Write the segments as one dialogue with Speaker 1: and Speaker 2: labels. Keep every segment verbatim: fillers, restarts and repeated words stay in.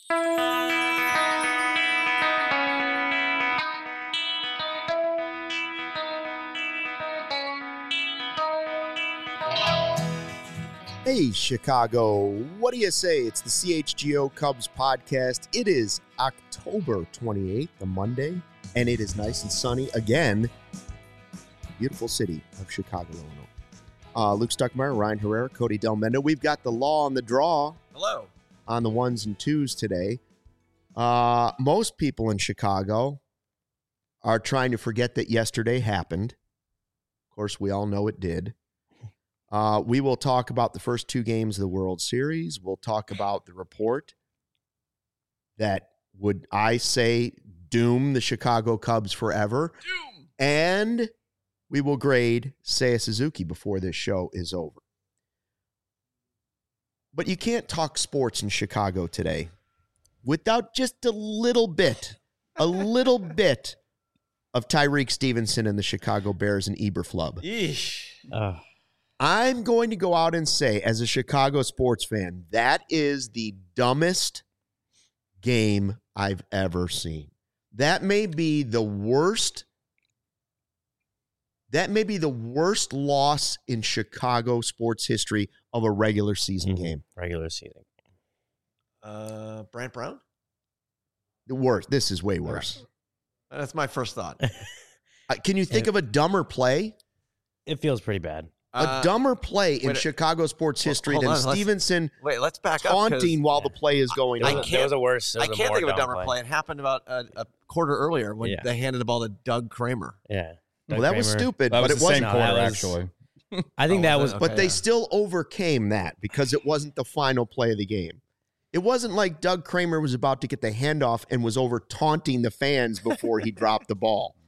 Speaker 1: Hey, Chicago, what do you say? It's the C H G O Cubs podcast. It is October twenty-eighth, a Monday, and it is nice and sunny again. Beautiful city of Chicago, Illinois. Uh, Luke Stuckmeyer, Ryan Herrera, Cody Delmendo. We've got the law on the draw.
Speaker 2: Hello.
Speaker 1: On the ones and twos today. Uh, most people in Chicago are trying to forget that yesterday happened. Of course, we all know it did. Uh, we will talk about the first two games of the World Series. We'll talk about the report that would, I say, doom the Chicago Cubs forever.
Speaker 2: Doom.
Speaker 1: And we will grade Seiya Suzuki before this show is over. But you can't talk sports in Chicago today without just a little bit, a little bit of Tyreek Stevenson and the Chicago Bears and Eberflub.
Speaker 2: Yeesh.
Speaker 3: Uh.
Speaker 1: I'm going to go out and say, as a Chicago sports fan, that is the dumbest game I've ever seen. That may be the worst. That may be the worst loss in Chicago sports history of a regular season
Speaker 3: Mm-hmm.
Speaker 1: game.
Speaker 3: Regular season.
Speaker 2: Uh, Brant Brown?
Speaker 1: The worst. This is way worse.
Speaker 2: That's my first thought.
Speaker 1: Uh, can you think of a dumber play?
Speaker 3: It feels pretty bad.
Speaker 1: A
Speaker 2: Uh,
Speaker 1: dumber play in
Speaker 2: wait,
Speaker 1: Chicago sports
Speaker 2: hold-
Speaker 1: history
Speaker 2: hold
Speaker 1: than
Speaker 2: on, let's-
Speaker 1: Stevenson
Speaker 2: Wait, let's back up. 'cause
Speaker 1: taunting while the play is going
Speaker 3: There
Speaker 2: I
Speaker 1: on.
Speaker 3: was, a-
Speaker 2: can't-
Speaker 3: there was a worse. there
Speaker 2: I
Speaker 3: was a
Speaker 2: can't
Speaker 3: more
Speaker 2: think of a
Speaker 3: dumb
Speaker 2: dumber
Speaker 3: play.
Speaker 2: play. It happened about a, a quarter earlier when
Speaker 3: Yeah.
Speaker 2: they handed the ball to Doug Kramer.
Speaker 3: Yeah.
Speaker 1: Well,
Speaker 3: Doug
Speaker 1: that was
Speaker 3: Kramer.
Speaker 1: stupid,
Speaker 4: That
Speaker 1: but
Speaker 4: was
Speaker 1: it
Speaker 4: the same
Speaker 1: wasn't.
Speaker 3: No,
Speaker 4: quarter,
Speaker 3: that was-
Speaker 4: actually.
Speaker 3: I think
Speaker 2: Oh,
Speaker 3: that
Speaker 2: was
Speaker 3: was.
Speaker 2: it?
Speaker 1: But
Speaker 2: Okay,
Speaker 1: they
Speaker 2: yeah.
Speaker 1: still overcame that because it wasn't the final play of the game. It wasn't like Doug Kramer was about to get the handoff and was over taunting the fans before he dropped the ball.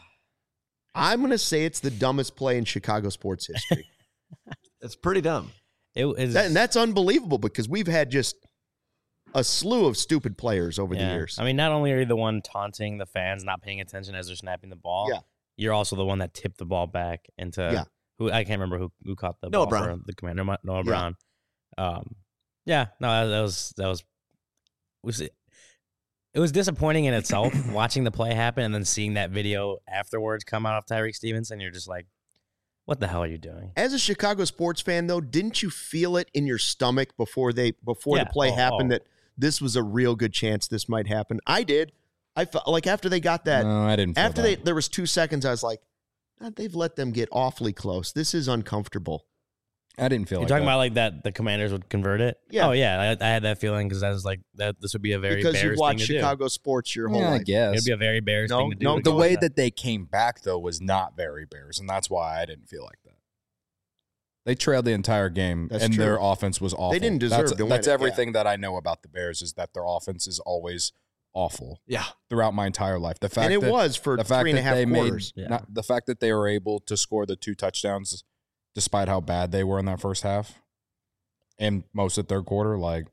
Speaker 1: I'm going to say it's the dumbest play in Chicago sports history.
Speaker 2: It's pretty dumb.
Speaker 3: It was.
Speaker 1: That, and that's unbelievable because we've had just a slew of stupid players over
Speaker 3: yeah.
Speaker 1: the years.
Speaker 3: I mean, not only are you the one taunting the fans, not paying attention as they're snapping the ball.
Speaker 1: Yeah.
Speaker 3: You're also the one that tipped the ball back into.
Speaker 1: Yeah.
Speaker 3: Who I can't remember who who caught the
Speaker 2: Noah
Speaker 3: ball
Speaker 2: Brown.
Speaker 3: for the commander. Noah
Speaker 1: Yeah.
Speaker 3: Brown. Um. Yeah. No, that, that was that was was it. It was disappointing in itself watching the play happen and then seeing that video afterwards come out of Tyreek Stevenson. You're just like, what the hell are you doing?
Speaker 1: As a Chicago sports fan, though, didn't you feel it in your stomach before they before
Speaker 3: Yeah.
Speaker 1: the play
Speaker 3: Oh,
Speaker 1: happened
Speaker 3: oh.
Speaker 1: that this was a real good chance this might happen? I did. I felt like after they got that,
Speaker 4: No, I didn't feel
Speaker 1: after
Speaker 4: that.
Speaker 1: they there was two seconds, I was like, God, they've let them get awfully close. This is uncomfortable.
Speaker 4: I didn't feel
Speaker 3: You're
Speaker 4: like
Speaker 3: talking
Speaker 4: that.
Speaker 3: about like that the Commanders would convert it?
Speaker 1: Yeah.
Speaker 3: Oh yeah, I, I had that feeling because I was like that. This would be a very
Speaker 1: Because
Speaker 3: Bears
Speaker 1: you've watched
Speaker 3: thing to
Speaker 1: Chicago sports your whole
Speaker 4: yeah, I
Speaker 1: life.
Speaker 3: do.
Speaker 4: guess.
Speaker 3: It'd be a very Bears
Speaker 1: No,
Speaker 3: thing to do.
Speaker 1: no,
Speaker 3: to
Speaker 4: the
Speaker 3: go
Speaker 4: way
Speaker 3: with
Speaker 4: that they came back, though, was not very Bears, and that's why I didn't feel like that. They trailed the entire game,
Speaker 1: That's
Speaker 4: and
Speaker 1: true.
Speaker 4: their offense was awful.
Speaker 1: didn't deserve
Speaker 4: that's,
Speaker 1: to win
Speaker 4: That's
Speaker 1: it,
Speaker 4: everything that I know about the Bears is that their offense is always awful
Speaker 2: Yeah.
Speaker 4: throughout my entire life. The fact
Speaker 1: And it
Speaker 4: that,
Speaker 1: was for
Speaker 4: the fact
Speaker 1: three and a
Speaker 4: that
Speaker 1: half
Speaker 4: they
Speaker 1: quarters.
Speaker 4: made
Speaker 3: Yeah.
Speaker 4: not, the fact that they were able to score the two touchdowns, despite how bad they were in that first half, and most of the third quarter, like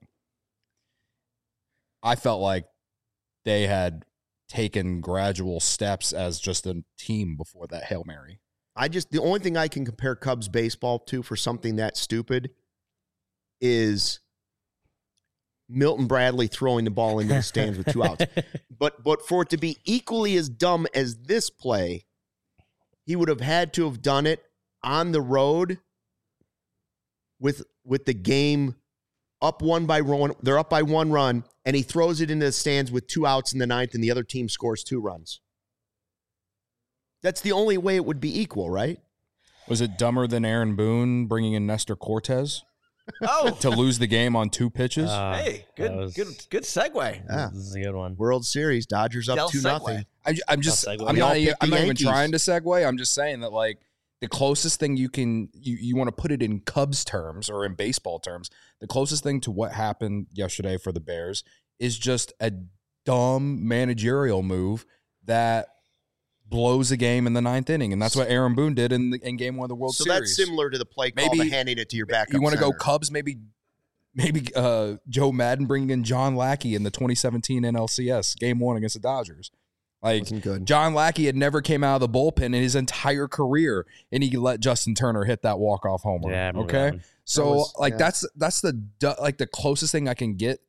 Speaker 4: I felt like they had taken gradual steps as just a team before that Hail Mary.
Speaker 1: I just the only thing I can compare Cubs baseball to for something that stupid is Milton Bradley throwing the ball into the stands with two outs. But but for it to be equally as dumb as this play, he would have had to have done it on the road with with the game up one by one. They're up by one run, and he throws it into the stands with two outs in the ninth, and the other team scores two runs. That's the only way it would be equal, right?
Speaker 4: Was it dumber than Aaron Boone bringing in Nestor Cortez
Speaker 2: Oh,
Speaker 4: to lose the game on two pitches?
Speaker 3: Uh,
Speaker 2: hey, good,
Speaker 3: that was-
Speaker 2: good, good segue.
Speaker 1: Yeah.
Speaker 3: This is a good one.
Speaker 1: World Series, Dodgers up
Speaker 2: Del
Speaker 1: two
Speaker 2: segue.
Speaker 1: nothing.
Speaker 4: I, I'm just,
Speaker 3: Tough segue.
Speaker 4: I'm
Speaker 1: We all
Speaker 4: not, even,
Speaker 1: picked the
Speaker 4: I'm not even
Speaker 1: Yankees.
Speaker 4: trying to segue. I'm just saying that, like, the closest thing you can, you, you want to put it in Cubs terms or in baseball terms, the closest thing to what happened yesterday for the Bears is just a dumb managerial move that blows a game in the ninth inning. And that's what Aaron Boone did in, the, in game one of the World
Speaker 1: So
Speaker 4: Series.
Speaker 1: that's similar to the play call
Speaker 4: Maybe-
Speaker 1: to handing it to your backup
Speaker 4: You want to go
Speaker 1: center.
Speaker 4: Cubs, maybe maybe uh, Joe Madden bringing in John Lackey in the twenty seventeen N L C S game one against the Dodgers. Like,
Speaker 1: Wasn't good.
Speaker 4: John Lackey had never came out of the bullpen in his entire career, and he let Justin Turner hit that walk-off homer.
Speaker 3: Yeah, I remember
Speaker 4: okay?
Speaker 3: that one.
Speaker 4: So,
Speaker 1: That was-
Speaker 4: like,
Speaker 1: yeah.
Speaker 4: that's that's the du- like the closest thing I can get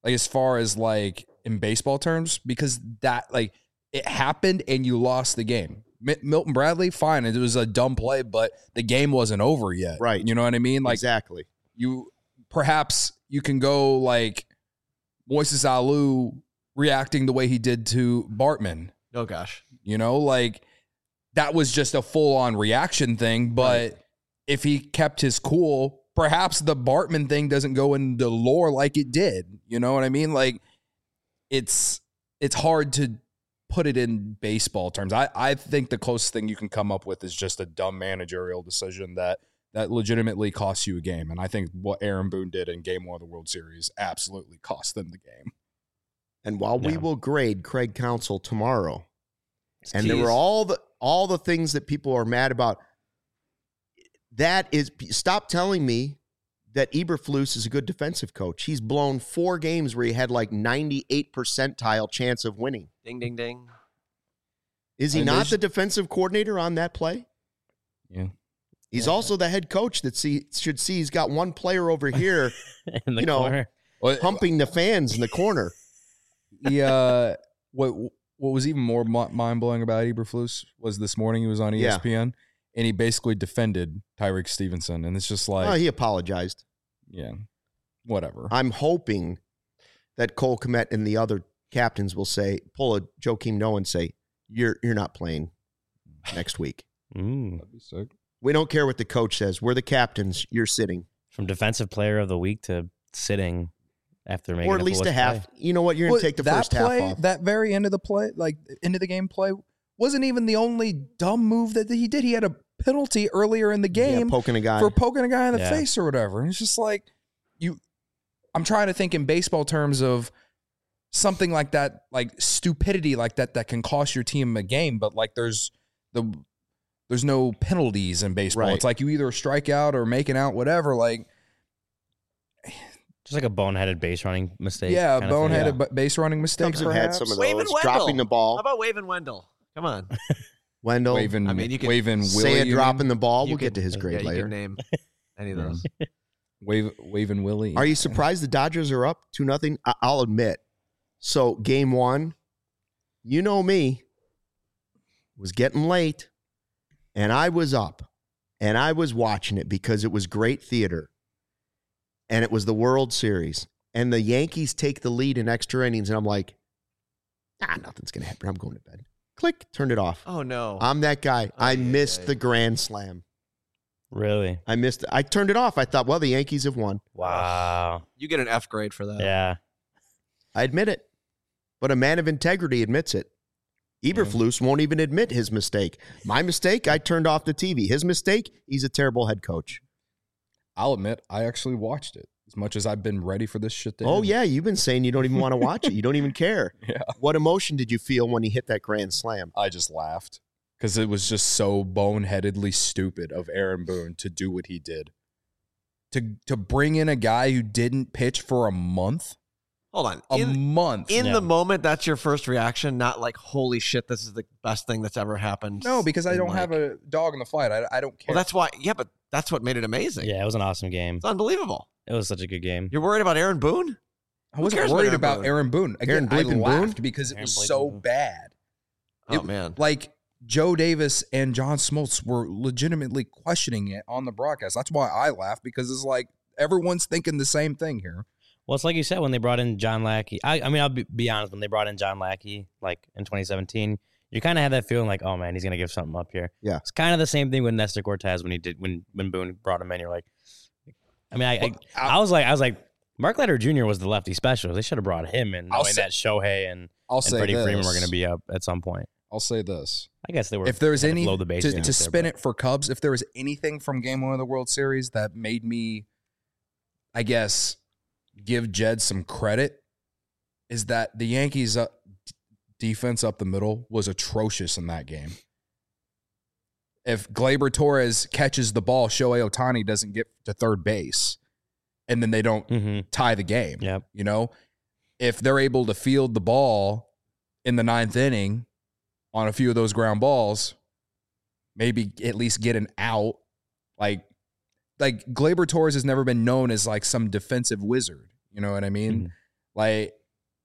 Speaker 4: Like as far as like in baseball terms, because that like it happened and you lost the game. M- Milton Bradley, fine, it was a dumb play, but the game wasn't over yet.
Speaker 1: Right.
Speaker 4: You know what I mean? Like
Speaker 1: exactly.
Speaker 4: you perhaps you can go like Moises Alou reacting the way he did to Bartman.
Speaker 2: Oh gosh.
Speaker 4: You know, like that was just a full on reaction thing. But right. if he kept his cool, perhaps the Bartman thing doesn't go into lore like it did. You know what I mean? Like it's it's hard to put it in baseball terms. I, I think the closest thing you can come up with is just a dumb managerial decision that that legitimately costs you a game. And I think what Aaron Boone did in game one of the World Series absolutely cost them the game.
Speaker 1: And while
Speaker 3: Yeah.
Speaker 1: we will grade Craig Counsell tomorrow, and there
Speaker 2: Jeez.
Speaker 1: were all the all the things that people are mad about, that is, stop telling me that Eberflus is a good defensive coach. He's blown four games where he had like ninety-eight percentile chance of winning.
Speaker 2: Ding, ding, ding.
Speaker 1: Is he
Speaker 4: And they
Speaker 1: not
Speaker 4: sh-
Speaker 1: the defensive coordinator on that play?
Speaker 4: Yeah.
Speaker 1: He's
Speaker 3: Yeah.
Speaker 1: also the head coach that see, should see he's got one player over here
Speaker 3: in the
Speaker 1: You know,
Speaker 3: corner.
Speaker 4: Well,
Speaker 1: pumping the fans in the corner.
Speaker 4: he, uh, what what was even more mind blowing about Eberflus was this morning he was on E S P N and he basically defended Tyreek Stevenson, and it's just like,
Speaker 1: Oh, he apologized.
Speaker 4: yeah, whatever.
Speaker 1: I'm hoping that Cole Kmet and the other captains will say, pull a Joakim Noah and say, you're you're not playing next week.
Speaker 3: Ooh.
Speaker 4: That'd be sick.
Speaker 1: We don't care what the coach says. We're the captains. You're sitting.
Speaker 3: From defensive player of the week to sitting after making
Speaker 1: Or at least a
Speaker 3: foolish
Speaker 1: half.
Speaker 3: play.
Speaker 1: You know what? You're going
Speaker 4: Well,
Speaker 1: to take the
Speaker 4: that
Speaker 1: first
Speaker 4: play,
Speaker 1: half off.
Speaker 4: That very end of the play, like end of the game play, wasn't even the only dumb move that he did. He had a penalty earlier in the game
Speaker 1: Yeah, poking a guy.
Speaker 4: for poking a guy in the
Speaker 3: Yeah.
Speaker 4: face or whatever. And it's just like you. I'm trying to think in baseball terms of something like that, like stupidity like that, that can cost your team a game. But like there's the there's no penalties in baseball.
Speaker 1: Right.
Speaker 4: It's like you either strike out or make an out, whatever. Like
Speaker 3: Just like a boneheaded base running mistake.
Speaker 4: yeah,
Speaker 3: kind of thing.
Speaker 4: boneheaded ba- base running mistakes.
Speaker 1: Cubs have had
Speaker 4: perhaps.
Speaker 1: some of
Speaker 2: Waving
Speaker 1: those.
Speaker 2: Wendell.
Speaker 1: Dropping the
Speaker 2: How
Speaker 1: ball.
Speaker 2: about Waving Wendell? Come on.
Speaker 1: Wendell.
Speaker 4: Waving,
Speaker 2: I mean, you could
Speaker 4: waving Willie.
Speaker 1: Say it
Speaker 4: you
Speaker 1: dropping
Speaker 4: mean?
Speaker 1: the ball.
Speaker 2: You
Speaker 1: We'll get
Speaker 2: could-
Speaker 1: to his
Speaker 2: Yeah,
Speaker 1: grade
Speaker 2: you
Speaker 1: later.
Speaker 2: can name any of
Speaker 4: Yeah.
Speaker 2: those.
Speaker 4: Wave, waving Willie.
Speaker 1: Are you surprised the Dodgers are up two nothing? I'll admit. So game one, you know me, was getting late, and I was up, and I was watching it because it was great theater, and it was the World Series, and the Yankees take the lead in extra innings, and I'm like, ah, nothing's gonna happen. I'm going to bed. Click, turned it off.
Speaker 2: Oh, no.
Speaker 1: I'm that guy. I
Speaker 2: Ay,
Speaker 1: missed
Speaker 2: ay.
Speaker 1: the grand slam.
Speaker 3: Really?
Speaker 1: I missed it. I turned it off. I thought, well, the Yankees have won.
Speaker 3: Wow.
Speaker 2: You get an F grade for that.
Speaker 3: Yeah.
Speaker 1: I admit it. But a man of integrity admits it. Eberflus won't even admit his mistake. My mistake, I turned off the T V. His mistake, he's a terrible head coach.
Speaker 4: I'll admit, I actually watched it as much as I've been ready for this shit to
Speaker 1: Oh,
Speaker 4: end.
Speaker 1: yeah, you've been saying you don't even want to watch it. You don't even care.
Speaker 4: Yeah.
Speaker 1: What emotion did you feel when he hit that grand slam?
Speaker 4: I just laughed because it was just so boneheadedly stupid of Aaron Boone to do what he did. To to bring in a guy who didn't pitch for a month,
Speaker 2: Hold on.
Speaker 4: a
Speaker 2: In,
Speaker 4: month.
Speaker 2: in
Speaker 3: Yeah.
Speaker 2: the moment, that's your first reaction, not like, holy shit, this is the best thing that's ever happened.
Speaker 4: no, because I
Speaker 2: in,
Speaker 4: don't
Speaker 2: like-
Speaker 4: have a dog in the fight. I, I don't care.
Speaker 2: Well, that's why. Yeah, but that's what made it amazing.
Speaker 3: Yeah, it was an awesome game.
Speaker 2: It's unbelievable.
Speaker 3: It was such a good game.
Speaker 2: You're worried about Aaron Boone?
Speaker 4: I wasn't
Speaker 2: cares about
Speaker 4: worried
Speaker 2: Aaron
Speaker 4: about
Speaker 2: Boone?
Speaker 4: Aaron Boone. Again,
Speaker 1: Aaron
Speaker 4: I
Speaker 1: Bleeping
Speaker 4: laughed
Speaker 1: Boone?
Speaker 4: because it
Speaker 3: Aaron
Speaker 4: was
Speaker 3: Bleeping
Speaker 4: so
Speaker 3: Boone.
Speaker 4: bad.
Speaker 2: Oh,
Speaker 4: It-
Speaker 2: man.
Speaker 4: Like Joe Davis and John Smoltz were legitimately questioning it on the broadcast. That's why I laughed, because it's like everyone's thinking the same thing here.
Speaker 3: Well, it's like you said when they brought in John Lackey. I, I mean, I'll be, be honest. When they brought in John Lackey, like in twenty seventeen, you kind of had that feeling like, oh man, he's gonna give something up here.
Speaker 1: Yeah.
Speaker 3: It's kind of the same thing with Nestor Cortez when he did when when Boone brought him in. You're like, I mean, I
Speaker 4: Well,
Speaker 3: I, I was like, I was like, Mark Leiter Junior was the lefty special. They should have brought him in,
Speaker 4: I'll
Speaker 3: knowing
Speaker 4: say-
Speaker 3: that Shohei and,
Speaker 4: I'll
Speaker 3: and
Speaker 4: say
Speaker 3: Freddie
Speaker 4: this.
Speaker 3: Freeman were going to be up at some point.
Speaker 4: I'll say this.
Speaker 3: I guess they were.
Speaker 4: If there's
Speaker 3: had to
Speaker 4: any
Speaker 3: blow
Speaker 4: to,
Speaker 3: the bases
Speaker 4: to
Speaker 3: out there,
Speaker 4: spin
Speaker 3: but-
Speaker 4: it for Cubs, if there was anything from Game One of the World Series that made me, I guess, give Jed some credit, is that the Yankees' uh, d- defense up the middle was atrocious in that game. If Gleyber Torres catches the ball, Shohei Ohtani doesn't get to third base, and then they don't
Speaker 3: Mhm.
Speaker 4: tie the game.
Speaker 3: Yep.
Speaker 4: You know, if they're able to field the ball in the ninth inning on a few of those ground balls, maybe at least get an out. Like, like Gleyber Torres has never been known as like some defensive wizard. You know what I mean? Like,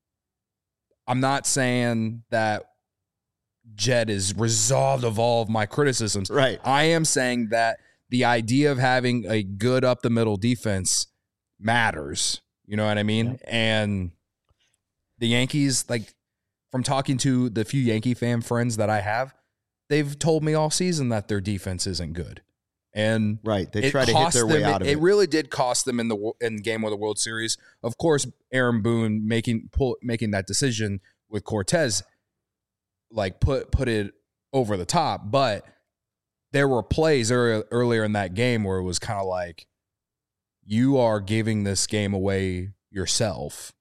Speaker 4: I'm not saying that Jed is resolved of all of my criticisms.
Speaker 1: Right.
Speaker 4: I am saying that the idea of having a good up the middle defense matters. You know what I mean? Yep. And the Yankees, like, from talking to the few Yankee fan friends that I have, they've told me all season that their defense isn't good. And
Speaker 1: right, they try to hit their way
Speaker 4: them,
Speaker 1: out of
Speaker 4: it.
Speaker 1: it.
Speaker 4: It really did cost them in the in game of the World Series. Of course, Aaron Boone making pull, making that decision with Cortez, like put put it over the top. But there were plays earlier, earlier in that game where it was kind of like, you are giving this game away yourself.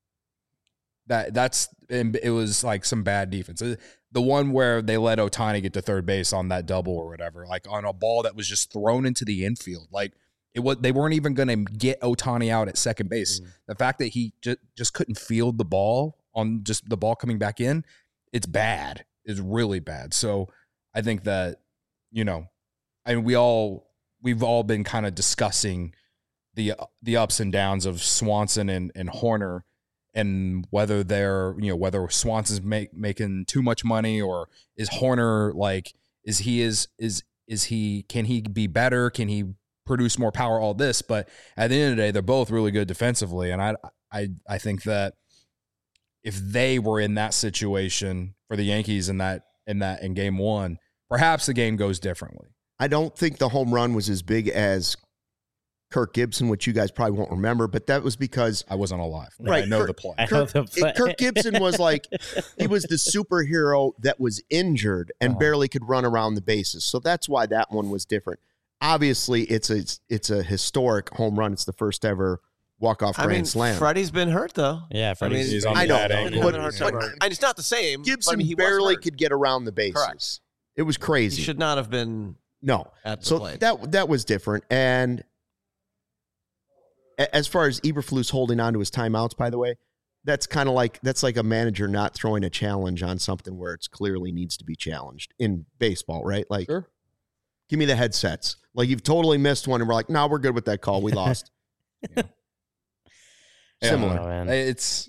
Speaker 4: That that's it was like some bad defense. The one where they let Ohtani get to third base on that double or whatever, like on a ball that was just thrown into the infield. Like it was, they weren't even going to get Ohtani out at second base. Mm. The fact that he just, just couldn't field the ball on just the ball coming back in, it's bad. It's really bad. So I think that, you know, I mean, we all, we've all been kind of discussing the, the ups and downs of Swanson and, and Horner, and whether they're, you know, whether Swanson's make, making too much money, or is Horner like, is he is is is he can he be better? Can he produce more power? All this, but at the end of the day, they're both really good defensively, and I I I think that if they were in that situation for the Yankees in that in that in game one, perhaps the game goes differently.
Speaker 1: I don't think the home run was as big as Kirk Gibson, which you guys probably won't remember, but that was because
Speaker 4: I wasn't alive.
Speaker 1: Right,
Speaker 4: I know
Speaker 1: Kirk,
Speaker 4: the play.
Speaker 3: I know
Speaker 1: Kirk,
Speaker 3: the play.
Speaker 1: Kirk Gibson was like, he was the superhero that was injured and uh-huh. barely could run around the bases. So that's why that one was different. Obviously, it's a it's a historic home run. It's the first ever walk-off grand
Speaker 2: I mean,
Speaker 1: slam.
Speaker 2: Freddie's been hurt, though.
Speaker 3: Yeah, Freddie's
Speaker 2: I mean,
Speaker 4: he's on
Speaker 1: I know,
Speaker 4: that angle.
Speaker 1: but,
Speaker 2: hurt,
Speaker 1: but,
Speaker 2: but, and it's not the same.
Speaker 1: Gibson
Speaker 2: but I mean, he
Speaker 1: barely could get around the bases.
Speaker 2: Correct.
Speaker 1: It was crazy.
Speaker 2: He should not have been
Speaker 1: no.
Speaker 2: at the
Speaker 1: so
Speaker 2: plate.
Speaker 1: that that was different. And as far as Eberflus holding on to his timeouts, by the way, that's kind of like that's like a manager not throwing a challenge on something where it's clearly needs to be challenged in baseball, right? Like,
Speaker 4: sure.
Speaker 1: Give me the headsets. Like you've totally missed one, and we're like, no, we're good with that call. We lost.
Speaker 4: yeah.
Speaker 1: Similar.
Speaker 3: Oh,
Speaker 4: it's.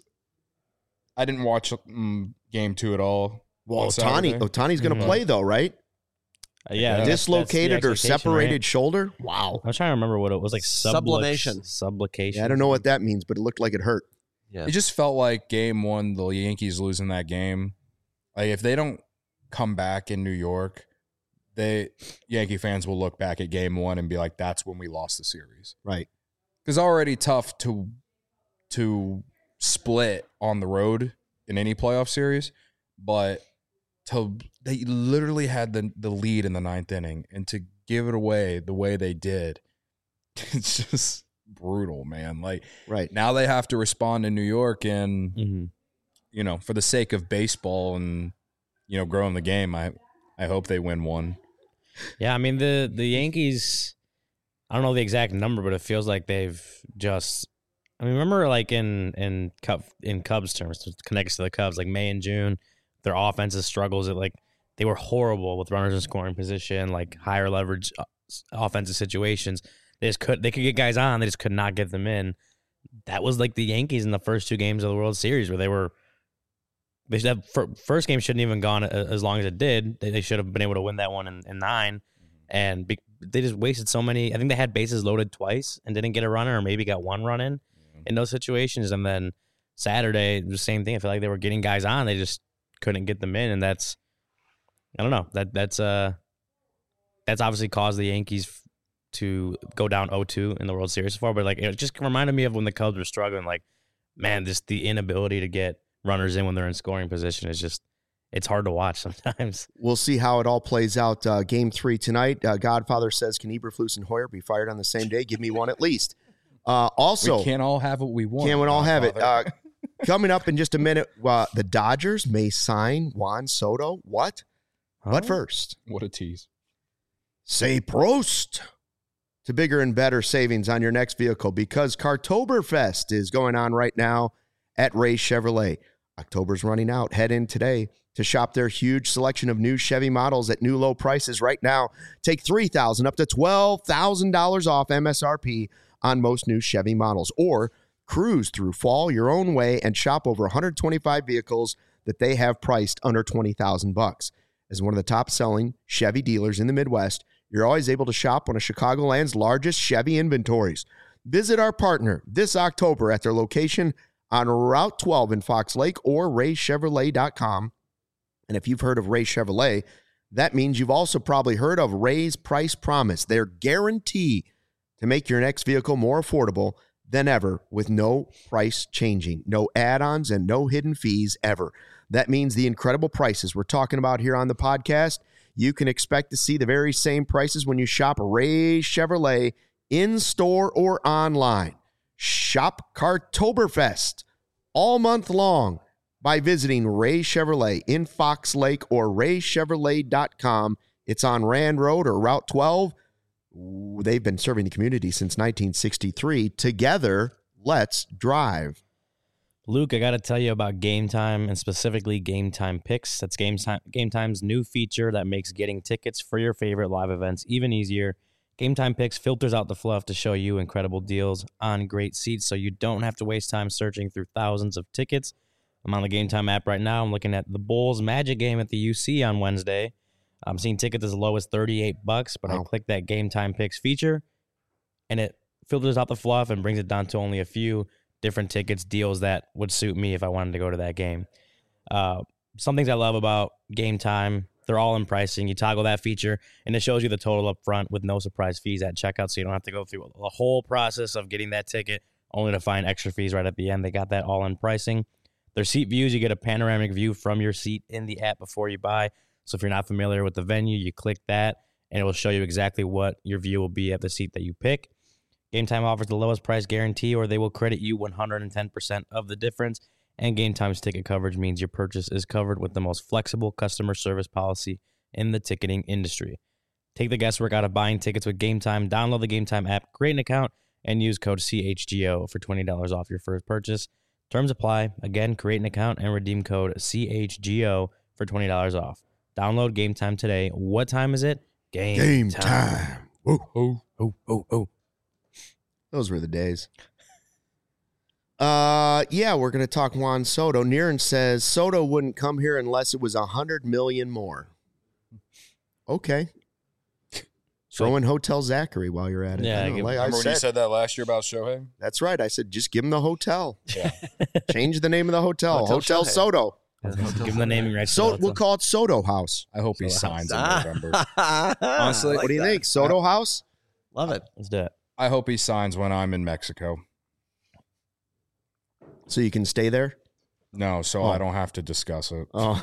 Speaker 4: I didn't watch um, game two at all.
Speaker 1: Well, Ohtani, Ohtani's going to
Speaker 3: Mm-hmm.
Speaker 1: play though, right?
Speaker 3: Uh, yeah, that's-
Speaker 1: Dislocated
Speaker 3: that's the
Speaker 1: or separated
Speaker 3: right?
Speaker 1: shoulder. Wow.
Speaker 3: I was trying to remember what it was like.
Speaker 2: Sublimation.
Speaker 3: Subluxation.
Speaker 1: Yeah, I don't know what that means, but it looked like it hurt.
Speaker 2: Yeah.
Speaker 4: It just felt like game one, the Yankees losing that game. Like if they don't come back in New York, they Yankee fans will look back at game one and be like, "That's when we lost the series."
Speaker 1: Right.
Speaker 4: Because already tough to to split on the road in any playoff series, but to they literally had the the lead in the ninth inning, and to give it away the way they did, it's just brutal, man. Like
Speaker 1: Right.
Speaker 4: now they have to respond in New York, and
Speaker 3: Mm-hmm.
Speaker 4: you know, for the sake of baseball and you know growing the game, I I hope they win one.
Speaker 3: Yeah, I mean the the Yankees. I don't know the exact number, but it feels like they've just. I mean, remember like in in Cub in Cubs terms, it connects to the Cubs, like May and June, their offensive struggles. It like they were horrible with runners in scoring position, like higher leverage uh, offensive situations. They just could they could get guys on, they just could not get them in. That was like the Yankees in the first two games of the World Series, where they were. They should have, first game shouldn't even gone as long as it did. They, they should have been able to win that one in, in nine, and be, they just wasted so many. I think they had bases loaded twice and didn't get a runner, or maybe got one run in in those situations. And then Saturday, the same thing. I feel like they were getting guys on, they just couldn't get them in, and that's I don't know that that's uh that's obviously caused the Yankees to go down oh two in the World Series so far. But like it just reminded me of when the Cubs were struggling. Like man, just the inability to get runners in when they're in scoring position is just it's hard to watch sometimes.
Speaker 1: We'll see how it all plays out. Uh, game three tonight. Uh, Godfather says, "Can Eberflus and Hoyer be fired on the same day? Give me one at least." Uh, also,
Speaker 4: we can't all have what we want.
Speaker 1: Can't we all have it?
Speaker 4: Godfather.
Speaker 1: Uh, coming up in just a minute, uh, the Dodgers may sign Juan Soto. What?
Speaker 3: Huh?
Speaker 1: But first,
Speaker 4: What a tease.
Speaker 1: say Prost to bigger and better savings on your next vehicle, because Cartoberfest is going on right now at Ray Chevrolet. October's running out. Head in today to shop their huge selection of new Chevy models at new low prices right now. Take three thousand dollars up to twelve thousand dollars off M S R P on most new Chevy models, or Cruise through fall your own way and shop over one hundred twenty-five vehicles that they have priced under twenty thousand bucks. As one of the top-selling Chevy dealers in the Midwest, you're always able to shop one of Chicagoland's largest Chevy inventories. Visit our partner this October at their location on Route twelve in Fox Lake or ray chevrolet dot com. And if you've heard of Ray Chevrolet, that means you've also probably heard of Ray's Price Promise, their guarantee to make your next vehicle more affordable than ever with no price changing, no add-ons, and no hidden fees ever. That means the incredible prices we're talking about here on the podcast, you can expect to see the very same prices when you shop Ray Chevrolet in-store or online. Shop Cartoberfest all month long by visiting Ray Chevrolet in Fox Lake or ray chevrolet dot com. It's on Rand Road or Route twelve. They've been serving the community since nineteen sixty-three. Together, let's drive.
Speaker 3: Luke, I got to tell you about Game Time and specifically Game Time Picks. That's Game Time, Game Time's new feature that makes getting tickets for your favorite live events even easier. Game Time Picks filters out the fluff to show you incredible deals on great seats so you don't have to waste time searching through thousands of tickets. I'm on the Game Time app right now. I'm looking at the Bulls Magic game at the U C on Wednesday. I'm seeing tickets as low as thirty-eight bucks, but wow. I click that Game Time Picks feature, and it filters out the fluff and brings it down to only a few different tickets, deals that would suit me if I wanted to go to that game. Uh, some things I love about Game Time, they're all in pricing. You toggle that feature, and it shows you the total up front with no surprise fees at checkout, so you don't have to go through the whole process of getting that ticket only to find extra fees right at the end. They got that all in pricing. Their seat views, you get a panoramic view from your seat in the app before you buy. So if you're not familiar with the venue, you click that, and it will show you exactly what your view will be at the seat that you pick. Game Time offers the lowest price guarantee, or they will credit you one hundred ten percent of the difference. And Game Time's ticket coverage means your purchase is covered with the most flexible customer service policy in the ticketing industry. Take the guesswork out of buying tickets with Game Time. Download the Game Time app, create an account, and use code C H G O for twenty dollars off your first purchase. Terms apply. Again, create an account and redeem code C H G O for twenty dollars off. Download Game Time today. What time is it? Game,
Speaker 1: Game
Speaker 3: time.
Speaker 1: time.
Speaker 3: Oh, oh, oh, oh, oh.
Speaker 1: Those were the days. Uh, yeah, we're going to talk Juan Soto. Niren says Soto wouldn't come here unless it was one hundred million more. Okay. Throw in Hotel Zachary while you're at it.
Speaker 3: Yeah,
Speaker 1: I know,
Speaker 3: give,
Speaker 1: like I
Speaker 4: Remember when
Speaker 1: said,
Speaker 4: you said that last year about Shohei?
Speaker 1: That's right. I said, just give him the hotel.
Speaker 4: Yeah.
Speaker 1: Change the name of the hotel.
Speaker 2: Hotel
Speaker 1: Hotel
Speaker 2: Shohei.
Speaker 1: Soto.
Speaker 3: Give him the naming rights.
Speaker 1: So
Speaker 3: to the
Speaker 1: we'll call it Soto House.
Speaker 4: I hope he
Speaker 3: Soto
Speaker 4: signs in
Speaker 2: Ah.
Speaker 4: November. Honestly,
Speaker 1: What do you think? Soto House?
Speaker 2: Love it.
Speaker 3: Let's do it.
Speaker 4: I hope he signs when I'm in Mexico.
Speaker 1: So you can stay there?
Speaker 4: No, so
Speaker 1: Oh.
Speaker 4: I don't have to discuss it.
Speaker 1: Oh.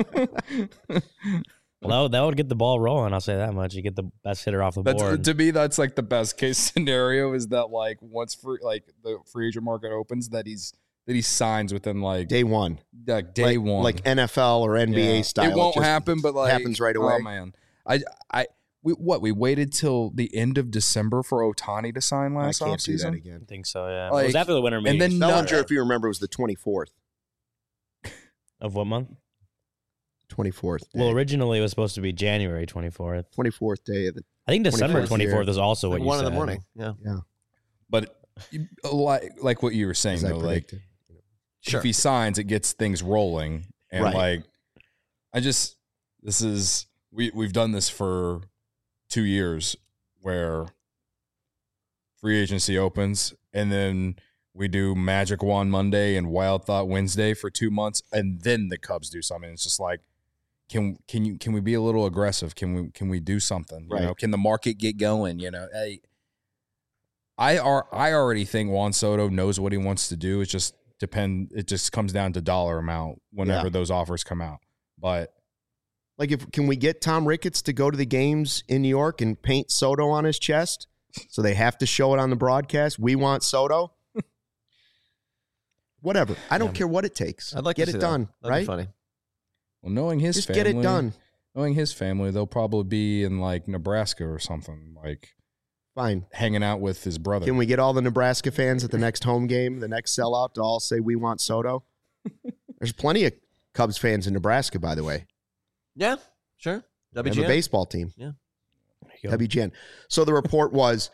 Speaker 3: Well, that would, that would get the ball rolling. I'll say that much. You get the best hitter off the
Speaker 4: That's,
Speaker 3: board.
Speaker 4: to me, that's like the best case scenario is that like once free, like the free agent market opens, that he's that he signs within like
Speaker 1: Day one.
Speaker 4: like day
Speaker 1: like,
Speaker 4: one,
Speaker 1: Like N F L or N B A
Speaker 4: Yeah.
Speaker 1: style.
Speaker 4: It won't
Speaker 1: just
Speaker 4: happen, but like
Speaker 1: happens right away.
Speaker 4: Oh man, I I we what we waited till the end of December for Ohtani to sign
Speaker 1: I
Speaker 4: last
Speaker 1: can't do that
Speaker 4: offseason.
Speaker 1: again.
Speaker 3: I think so, yeah.
Speaker 4: Like-
Speaker 3: it was after the winter meeting.
Speaker 4: then
Speaker 1: I
Speaker 4: no-
Speaker 1: wonder if you remember, it was the twenty-fourth.
Speaker 3: Of what month?
Speaker 1: twenty-fourth. Day.
Speaker 3: Well, originally it was supposed to be January twenty-fourth.
Speaker 1: twenty-fourth day of the.
Speaker 3: I think December
Speaker 1: twenty-fourth
Speaker 3: twenty-fourth
Speaker 1: year.
Speaker 3: is also what
Speaker 2: Like
Speaker 3: you
Speaker 2: one
Speaker 3: said.
Speaker 2: in the morning. Yeah.
Speaker 1: Yeah.
Speaker 4: But you- like like what you were saying
Speaker 1: As I
Speaker 4: though, like
Speaker 1: predicted.
Speaker 2: Sure.
Speaker 4: if he signs, it gets things rolling. And
Speaker 1: Right.
Speaker 4: like, I just, this is, we, we've done this for two years where free agency opens and then we do Magic Wand Monday and Wild Thought Wednesday for two months. And then the Cubs do something. It's just like, can, can you, can we be a little aggressive? Can we, can we do something? You
Speaker 1: Right.
Speaker 4: know, can the market get going? You know, hey, I are, I already think Juan Soto knows what he wants to do. It's just, depend it just comes down to dollar amount whenever
Speaker 1: Yeah.
Speaker 4: those offers come out. But
Speaker 1: Like, if can we get Tom Ricketts to go to the games in New York and paint Soto on his chest, so they have to show it on the broadcast? We want Soto. Whatever. I don't
Speaker 3: Yeah.
Speaker 1: care what it takes.
Speaker 2: I'd like
Speaker 1: get
Speaker 2: to
Speaker 1: it
Speaker 2: see
Speaker 1: done.
Speaker 2: That. That'd
Speaker 1: Right.
Speaker 2: be funny.
Speaker 4: well, knowing his
Speaker 1: Just
Speaker 4: family,
Speaker 1: get it done.
Speaker 4: knowing his family, they'll probably be in like Nebraska or something, like
Speaker 1: Fine.
Speaker 4: hanging out with his brother.
Speaker 1: Can we get all the Nebraska fans at the next home game, the next sellout, to all say we want Soto? There's plenty of Cubs fans in Nebraska, by the way.
Speaker 2: Yeah. Sure.
Speaker 1: They have a
Speaker 2: W G N.
Speaker 1: baseball team.
Speaker 3: There you go.
Speaker 1: W G N. So the report was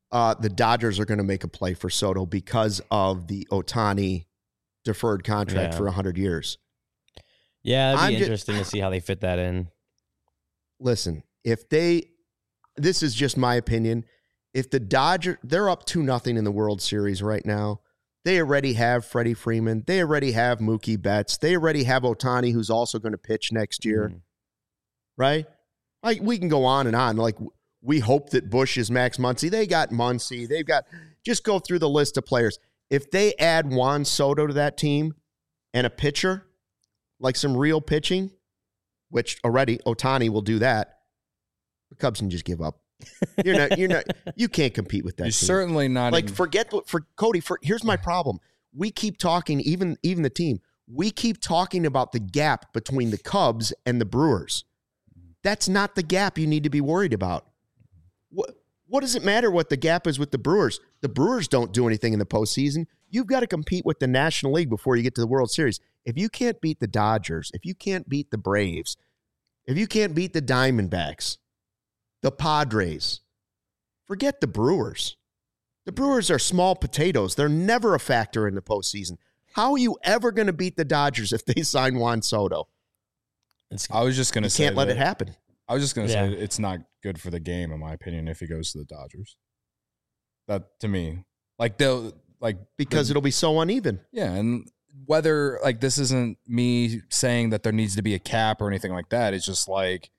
Speaker 1: uh, the Dodgers are going to make a play for Soto because of the Ohtani deferred contract
Speaker 3: Yeah.
Speaker 1: for one hundred years.
Speaker 3: Yeah, it'd be
Speaker 1: I'm ju-
Speaker 3: interesting to see how they fit that in.
Speaker 1: Listen, if they, this is just my opinion, if the Dodgers, they're up two nothing in the World Series right now. They already have Freddie Freeman. They already have Mookie Betts. They already have Ohtani, who's also going to pitch next year,
Speaker 3: Mhm.
Speaker 1: right? Like, we can go on and on. Like, we hope that Bush is Max Muncy. They got Muncy. They've got, just go through the list of players. If they add Juan Soto to that team and a pitcher, like some real pitching, which already Ohtani will do that, the Cubs can just give up. You're not, you're not, you can't compete with that
Speaker 4: You're
Speaker 1: team.
Speaker 4: certainly not
Speaker 1: Like,
Speaker 4: even-
Speaker 1: forget what, for Cody, for here's my problem. We keep talking, even, even the team, we keep talking about the gap between the Cubs and the Brewers. That's not the gap you need to be worried about. What, what does it matter what the gap is with the Brewers? The Brewers don't do anything in the postseason. You've got to compete with the National League before you get to the World Series. If you can't beat the Dodgers, if you can't beat the Braves, if you can't beat the Diamondbacks, the Padres, forget the Brewers. The Brewers are small potatoes. They're never a factor in the postseason. How are you ever going to beat the Dodgers if they sign Juan Soto?
Speaker 3: It's,
Speaker 4: I was just going
Speaker 1: You
Speaker 4: to say
Speaker 1: can't let
Speaker 4: that-
Speaker 1: it happen.
Speaker 4: I was just going to
Speaker 3: Yeah.
Speaker 4: say it's not good for the game, in my opinion, if he goes to the Dodgers. That to me, like they'll like
Speaker 1: Because
Speaker 4: the-
Speaker 1: it'll be so uneven.
Speaker 4: yeah, and whether like this isn't me saying that there needs to be a cap or anything like that. It's just like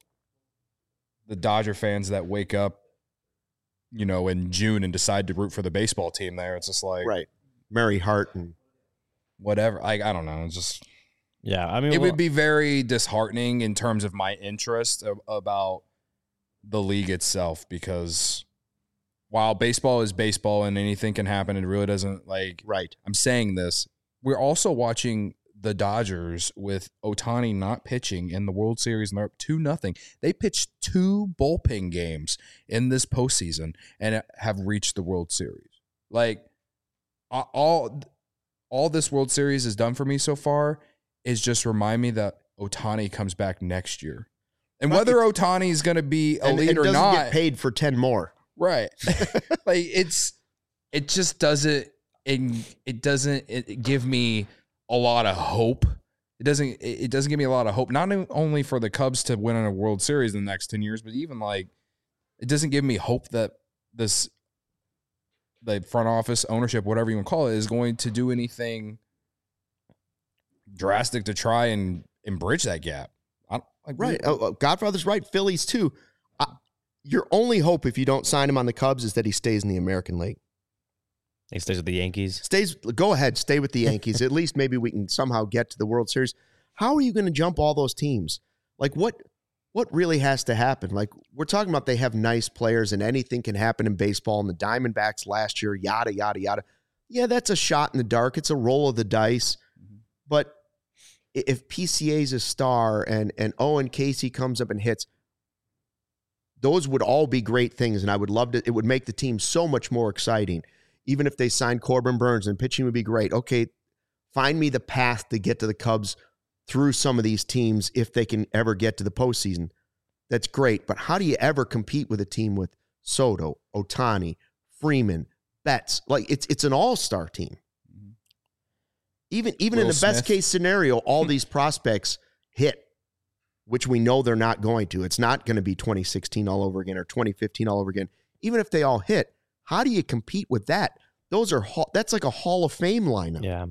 Speaker 4: the Dodger fans that wake up, you know, in June and decide to root for the baseball team. There, it's just like
Speaker 1: Right. Mary Hart and
Speaker 4: whatever. Like I don't know. It's just
Speaker 3: yeah, I mean,
Speaker 4: it
Speaker 3: well,
Speaker 4: would be very disheartening in terms of my interest of, about the league itself, because while baseball is baseball and anything can happen, it really doesn't like
Speaker 1: right.
Speaker 4: I'm saying this. We're also watching the Dodgers with Ohtani not pitching in the World Series, and they're up two nothing. They pitched two bullpen games in this postseason and have reached the World Series. Like all, all this World Series has done for me so far is just remind me that Ohtani comes back next year, and
Speaker 1: Right.
Speaker 4: whether Ohtani is going to be
Speaker 1: And,
Speaker 4: elite
Speaker 1: and
Speaker 4: or
Speaker 1: doesn't
Speaker 4: not,
Speaker 1: get paid for ten more.
Speaker 4: right? Like it's, it just doesn't. It, it doesn't it give me a lot of hope. It doesn't it doesn't give me a lot of hope, not only for the Cubs to win in a World Series in the next ten years, but even like it doesn't give me hope that this the front office, ownership, whatever you want to call it, is going to do anything drastic to try and, and bridge that gap. I don't, like,
Speaker 1: Right. Oh, oh, Godfather's right. Phillies too. I, your only hope if you don't sign him on the Cubs is that he stays in the American League.
Speaker 3: he stays with the Yankees.
Speaker 1: Stays. Go ahead. Stay with the Yankees. At least maybe we can somehow get to the World Series. How are you going to jump all those teams? Like what? What really has to happen? Like we're talking about, they have nice players and anything can happen in baseball. And the Diamondbacks last year, yada yada yada. Yeah, that's a shot in the dark. It's a roll of the dice. But if P C A's a star and and Owen Casey comes up and hits, those would all be great things, and I would love to. It would make the team so much more exciting. Even if they signed Corbin Burns and pitching would be great. Okay, find me the path to get to the Cubs through some of these teams if they can ever get to the postseason. That's great, but how do you ever compete with a team with Soto, Ohtani, Freeman, Betts? Like it's it's an all-star team. Even even in
Speaker 4: Will
Speaker 1: the best
Speaker 4: Smith.
Speaker 1: case scenario, all these prospects hit, which we know they're not going to. It's not going to be twenty sixteen all over again or twenty fifteen all over again. Even if they all hit, how do you compete with that? Those are hall- that's like a Hall of Fame lineup.
Speaker 3: Yeah,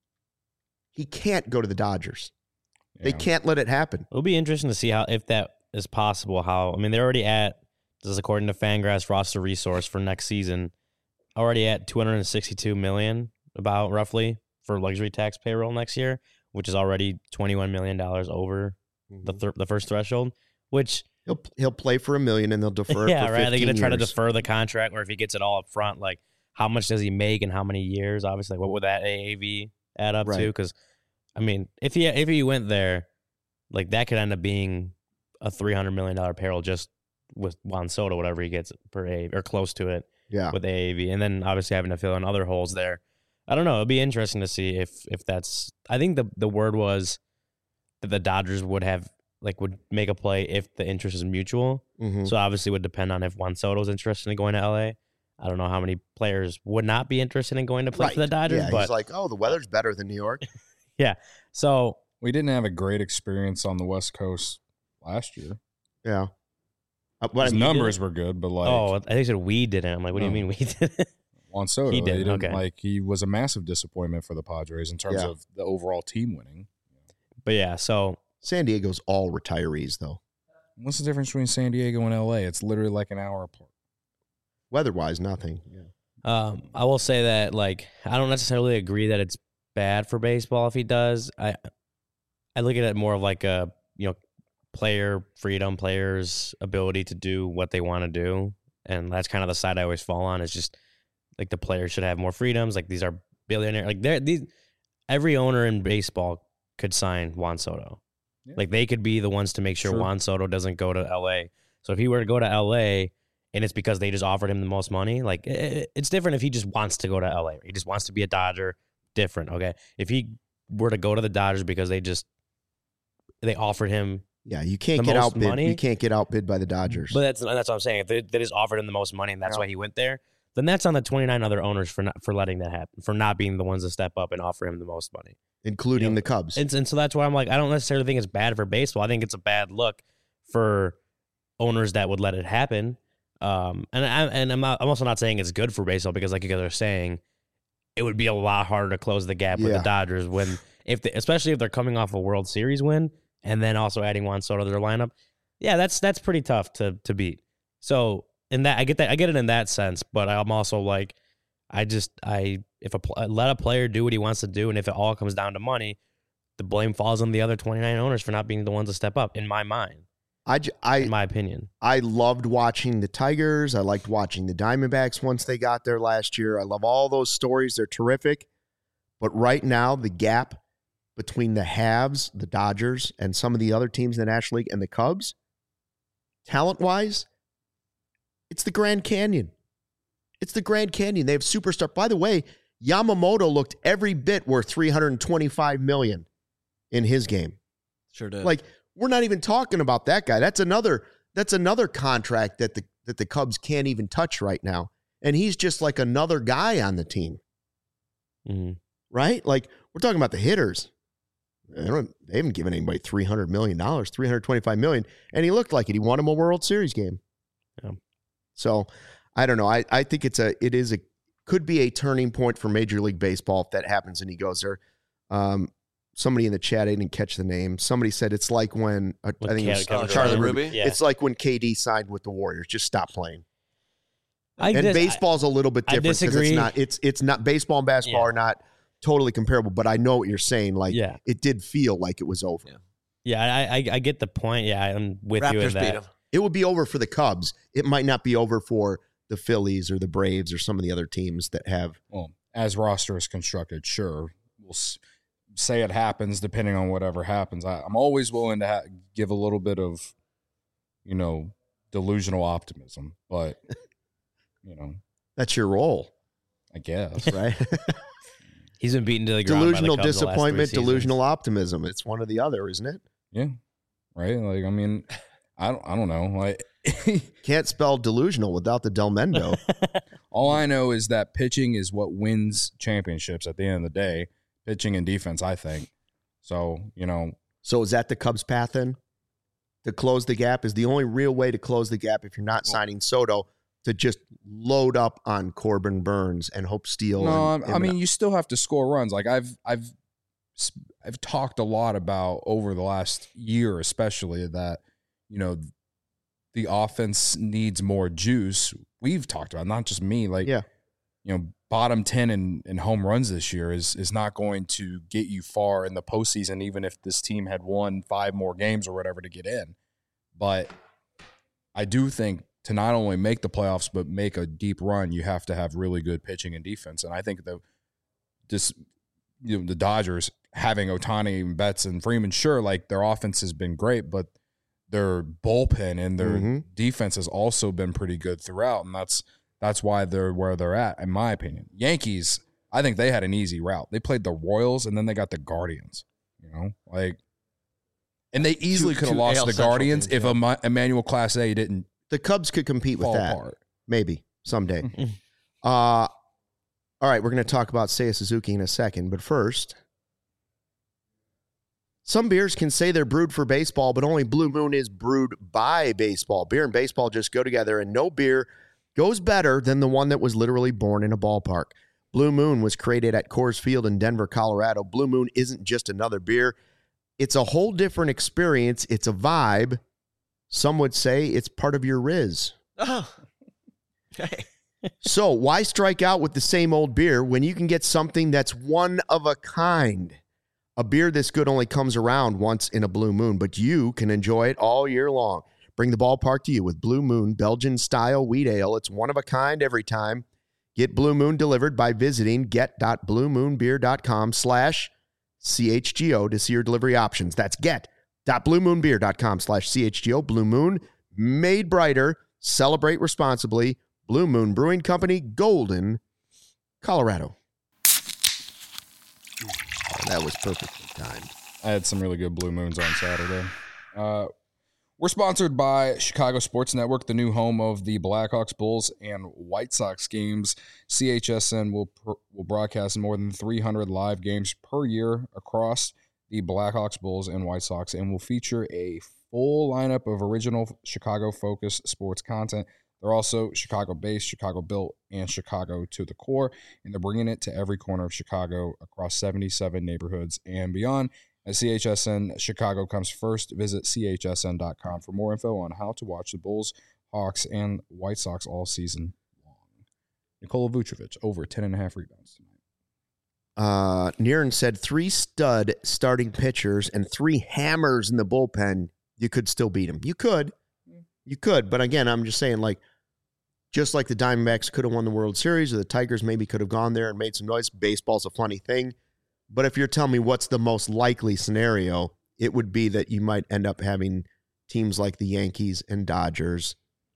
Speaker 1: He can't go to the Dodgers. They
Speaker 4: Yeah.
Speaker 1: can't let it happen.
Speaker 3: it'll be interesting to see how if that is possible. How I mean, they're already at this is according to Fangraphs roster resource for next season, already at two hundred sixty-two million, about roughly for luxury tax payroll next year, which is already twenty-one million dollars over the thir- the first threshold. Which
Speaker 1: He'll he'll play for a million and they'll defer.
Speaker 3: yeah,
Speaker 1: it for
Speaker 3: right. They're gonna try to
Speaker 1: years.
Speaker 3: defer the contract, or if he gets it all up front, like how much does he make and how many years? Obviously, like, what would that A A V add up
Speaker 1: Right.
Speaker 3: to? Because I mean, if he if he went there, like that could end up being a three hundred million dollar payroll just with Juan Soto, whatever he gets per A or close to it
Speaker 1: Yeah,
Speaker 3: with A A V, and then obviously having to fill in other holes there. I don't know. It'd be interesting to see if if that's. I think the the word was that the Dodgers would have like would make a play if the interest is mutual.
Speaker 1: Mhm.
Speaker 3: So obviously it would depend on if Juan Soto's interested in going to L A. I don't know how many players would not be interested in going to play
Speaker 1: Right.
Speaker 3: for the Dodgers,
Speaker 1: Yeah,
Speaker 3: but
Speaker 1: he's like, oh, the weather's better than New York.
Speaker 3: so
Speaker 4: We didn't have a great experience on the West Coast last year.
Speaker 1: Yeah. Uh, but
Speaker 4: His
Speaker 1: I mean,
Speaker 4: numbers were good, but like
Speaker 3: oh, I think he said we didn't. I'm like, what do you
Speaker 4: No.
Speaker 3: mean we didn't?
Speaker 4: Juan Soto,
Speaker 3: he
Speaker 4: he
Speaker 3: did,
Speaker 4: didn't,
Speaker 3: okay.
Speaker 4: like he was a massive disappointment for the Padres in terms
Speaker 1: Yeah.
Speaker 4: of the overall team winning.
Speaker 3: But yeah, so
Speaker 1: San Diego's all retirees, though.
Speaker 4: What's the difference between San Diego and L A? It's literally like an hour apart.
Speaker 1: Weather-wise, nothing. Yeah.
Speaker 3: Um, I will say that like I don't necessarily agree that it's bad for baseball if he does. I I look at it more of like a you know player freedom, players' ability to do what they want to do, and that's kind of the side I always fall on. Is just like the players should have more freedoms. Like these are billionaire. Like they're these every owner in baseball could sign Juan Soto.
Speaker 4: Yeah.
Speaker 3: Like they could be the ones to make sure
Speaker 4: Sure.
Speaker 3: Juan Soto doesn't go to L A. So if he were to go to L A. And it's because they just offered him the most money. Like it, it's different if he just wants to go to L A. He just wants to be a Dodger. Different, okay. If he were to go to the Dodgers because they just they offered him,
Speaker 1: Yeah, you can't
Speaker 3: The
Speaker 1: get
Speaker 3: most
Speaker 1: outbid.
Speaker 3: money?
Speaker 1: You can't get outbid by the Dodgers.
Speaker 3: but that's that's what I'm saying. If they, they just offered him the most money and that's
Speaker 1: Yeah.
Speaker 3: why he went there, then that's on the twenty-nine other owners for not for letting that happen, for not being the ones to step up and offer him the most money.
Speaker 1: including
Speaker 3: you know,
Speaker 1: the Cubs.
Speaker 3: And, and so that's why I'm like, I don't necessarily think it's bad for baseball. I think it's a bad look for owners that would let it happen. Um, and I, and I'm not, I'm also not saying it's good for baseball because, like you guys are saying, it would be a lot harder to close the gap with
Speaker 1: Yeah.
Speaker 3: the Dodgers when, if they, especially if they're coming off a World Series win and then also adding Juan Soto to their lineup. Yeah, that's that's pretty tough to to beat. So in that, I get that, I get it in that sense, but I'm also like, I just I if a pl- let a player do what he wants to do, and if it all comes down to money, the blame falls on the other twenty-nine owners for not being the ones to step up. In my mind,
Speaker 1: I, j- I,
Speaker 3: in my opinion.
Speaker 1: I loved watching the Tigers. I liked watching the Diamondbacks once they got there last year. I love all those stories. They're terrific. But right now, the gap between the haves, the Dodgers, and some of the other teams in the National League and the Cubs, talent-wise, it's the Grand Canyon. It's the Grand Canyon. They have superstar. By the way, Yamamoto looked every bit worth three hundred twenty-five million dollars in his game.
Speaker 2: Sure did.
Speaker 1: Like, we're not even talking about that guy. That's another that's another contract that the that the Cubs can't even touch right now. And he's just like another guy on the team,
Speaker 3: Mm-hmm.
Speaker 1: right? Like, we're talking about the hitters. They, don't, they haven't given anybody three hundred million dollars, three hundred twenty-five million dollars, and he looked like it. He won him a World Series game.
Speaker 3: Yeah.
Speaker 1: So, I don't know. I, I think it's a it is a could be a turning point for Major League Baseball if that happens and he goes there. Um, somebody in the chat, I didn't catch the name. Somebody said it's like when uh, I think it was
Speaker 3: Kevin
Speaker 1: Charlie
Speaker 2: Durant.
Speaker 1: Ruby.
Speaker 2: Ruby?
Speaker 3: Yeah.
Speaker 1: It's like when K D signed with the Warriors. Just stop playing.
Speaker 3: I
Speaker 1: And
Speaker 3: dis-
Speaker 1: baseball's a little bit
Speaker 3: I
Speaker 1: different because it's
Speaker 3: disagree.
Speaker 1: not it's it's not baseball and basketball
Speaker 3: Yeah.
Speaker 1: are not totally comparable. But I know what you're saying. Like
Speaker 3: Yeah.
Speaker 1: it did feel like it was over.
Speaker 2: Yeah.
Speaker 3: Yeah, I, I I get the point. Yeah, I'm with you in
Speaker 2: Raptors beat
Speaker 3: that.
Speaker 2: him.
Speaker 1: It would be over for the Cubs. It might not be over for the Phillies or the Braves or some of the other teams that have.
Speaker 4: Well, as roster is constructed, sure, we'll s- say it happens depending on whatever happens. I, I'm always willing to ha- give a little bit of, you know, delusional optimism, but you know,
Speaker 1: That's your role,
Speaker 4: I guess.
Speaker 1: right?
Speaker 3: He's been beaten to the ground.
Speaker 1: Delusional
Speaker 3: by the Cubs the last three
Speaker 1: disappointment,
Speaker 3: seasons.
Speaker 1: delusional optimism. It's one or the other, isn't it?
Speaker 4: Yeah, right. Like, I mean, I don't, I don't know. Like,
Speaker 1: Can't spell delusional without the Del Mendo.
Speaker 4: all I know is that pitching is what wins championships at the end of the day. Pitching and defense, I think. So, you know,
Speaker 1: So is that the Cubs' path then? To close the gap is the only real way to close the gap if you're not signing Soto to just load up on Corbin Burns and Hope Steele.
Speaker 4: no,
Speaker 1: and,
Speaker 4: I I mean, you still have to score runs. Like I've, I've, I've talked a lot about over the last year, especially that, you know, the offense needs more juice. We've talked about, not just me, like,
Speaker 1: Yeah.
Speaker 4: you know, bottom ten in, in home runs this year is is not going to get you far in the postseason, even if this team had won five more games or whatever to get in. But I do think to not only make the playoffs, but make a deep run, you have to have really good pitching and defense. And I think the this you know, the Dodgers having Ohtani and Betts and Freeman, sure, like their offense has been great, but their bullpen and their
Speaker 1: Mhm.
Speaker 4: defense has also been pretty good throughout, and that's that's why they're where they're at, in my opinion. Yankees, I think they had an easy route. They played the Royals and then they got the Guardians. You know, like, and they easily
Speaker 2: Two-
Speaker 4: could have
Speaker 2: two
Speaker 4: lost
Speaker 2: A L
Speaker 4: to the
Speaker 2: Central
Speaker 4: Guardians
Speaker 2: teams,
Speaker 4: if
Speaker 2: yeah.
Speaker 4: Emma- Emmanuel Clase didn't
Speaker 1: the Cubs could compete with
Speaker 4: fall
Speaker 1: that.
Speaker 4: apart.
Speaker 1: Maybe someday. Uh, all right, we're going to talk about Seiya Suzuki in a second, but first, some beers can say they're brewed for baseball, but only Blue Moon is brewed by baseball. Beer and baseball just go together, and no beer goes better than the one that was literally born in a ballpark. Blue Moon was created at Coors Field in Denver, Colorado. Blue Moon isn't just another beer. It's a whole different experience. It's a vibe. Some would say it's part of your Riz.
Speaker 2: Oh, okay.
Speaker 1: So why strike out with the same old beer when you can get something that's one of a kind? A beer this good only comes around once in a Blue Moon, but you can enjoy it all year long. Bring the ballpark to you with Blue Moon Belgian-style wheat ale. It's one of a kind every time. Get Blue Moon delivered by visiting get.bluemoonbeer.com slash CHGO to see your delivery options. That's get.bluemoonbeer.com slash CHGO. Blue Moon, made brighter. Celebrate responsibly. Blue Moon Brewing Company, Golden, Colorado. Oh, that was perfectly timed.
Speaker 4: I had some really good Blue Moons on Saturday. Uh, we're sponsored by Chicago Sports Network, the new home of the Blackhawks, Bulls, and White Sox games. C H S N will pr- will broadcast more than three hundred live games per year across the Blackhawks, Bulls, and White Sox, and will feature a full lineup of original Chicago-focused sports content. They're also Chicago-based, Chicago-built, and Chicago to the core, and they're bringing it to every corner of Chicago across seventy-seven neighborhoods and beyond. As C H S N Chicago comes first, visit C H S N dot com for more info on how to watch the Bulls, Hawks, and White Sox all season long. Nikola Vucevic, over ten and a half rebounds tonight.
Speaker 1: Uh, Niren said three stud starting pitchers and three hammers in the bullpen, you could still beat them. You could. You could. But again, I'm just saying, like, just like the Diamondbacks could have won the World Series or the Tigers maybe could have gone there and made some noise. Baseball's a funny thing. But if you're telling me what's the most likely scenario, it would be that you might end up having teams like the Yankees and Dodgers,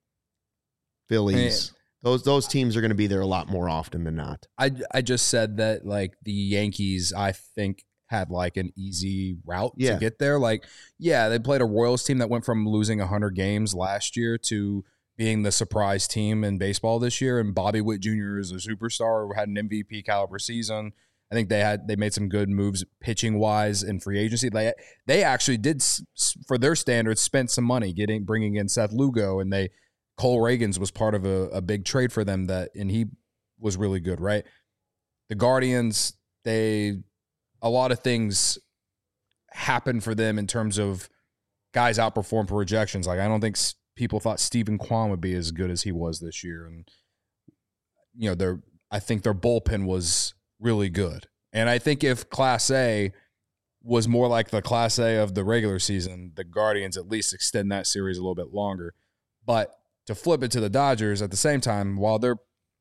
Speaker 1: Phillies. Those those teams are going to be there a lot more often than not.
Speaker 4: I, I just said that, like, the Yankees, I think, had, like, an easy route
Speaker 1: Yeah.
Speaker 4: to get there. Like, yeah, they played a Royals team that went from losing one hundred games last year to being the surprise team in baseball this year. And Bobby Witt Junior is a superstar, had an M V P caliber season. I think they had they made some good moves pitching wise in free agency. They they actually did, for their standards, spent some money getting bringing in Seth Lugo, and they Cole Reagans was part of a, a big trade for them that, and he was really good, right? The Guardians, they a lot of things happened for them in terms of guys outperform projections. Like, I don't think people thought Stephen Kwan would be as good as he was this year, and you know, their I think their bullpen was really good. And I think if Class A was more like the Class A of the regular season, the Guardians at least extend that series a little bit longer. But to flip it to the Dodgers at the same time, while their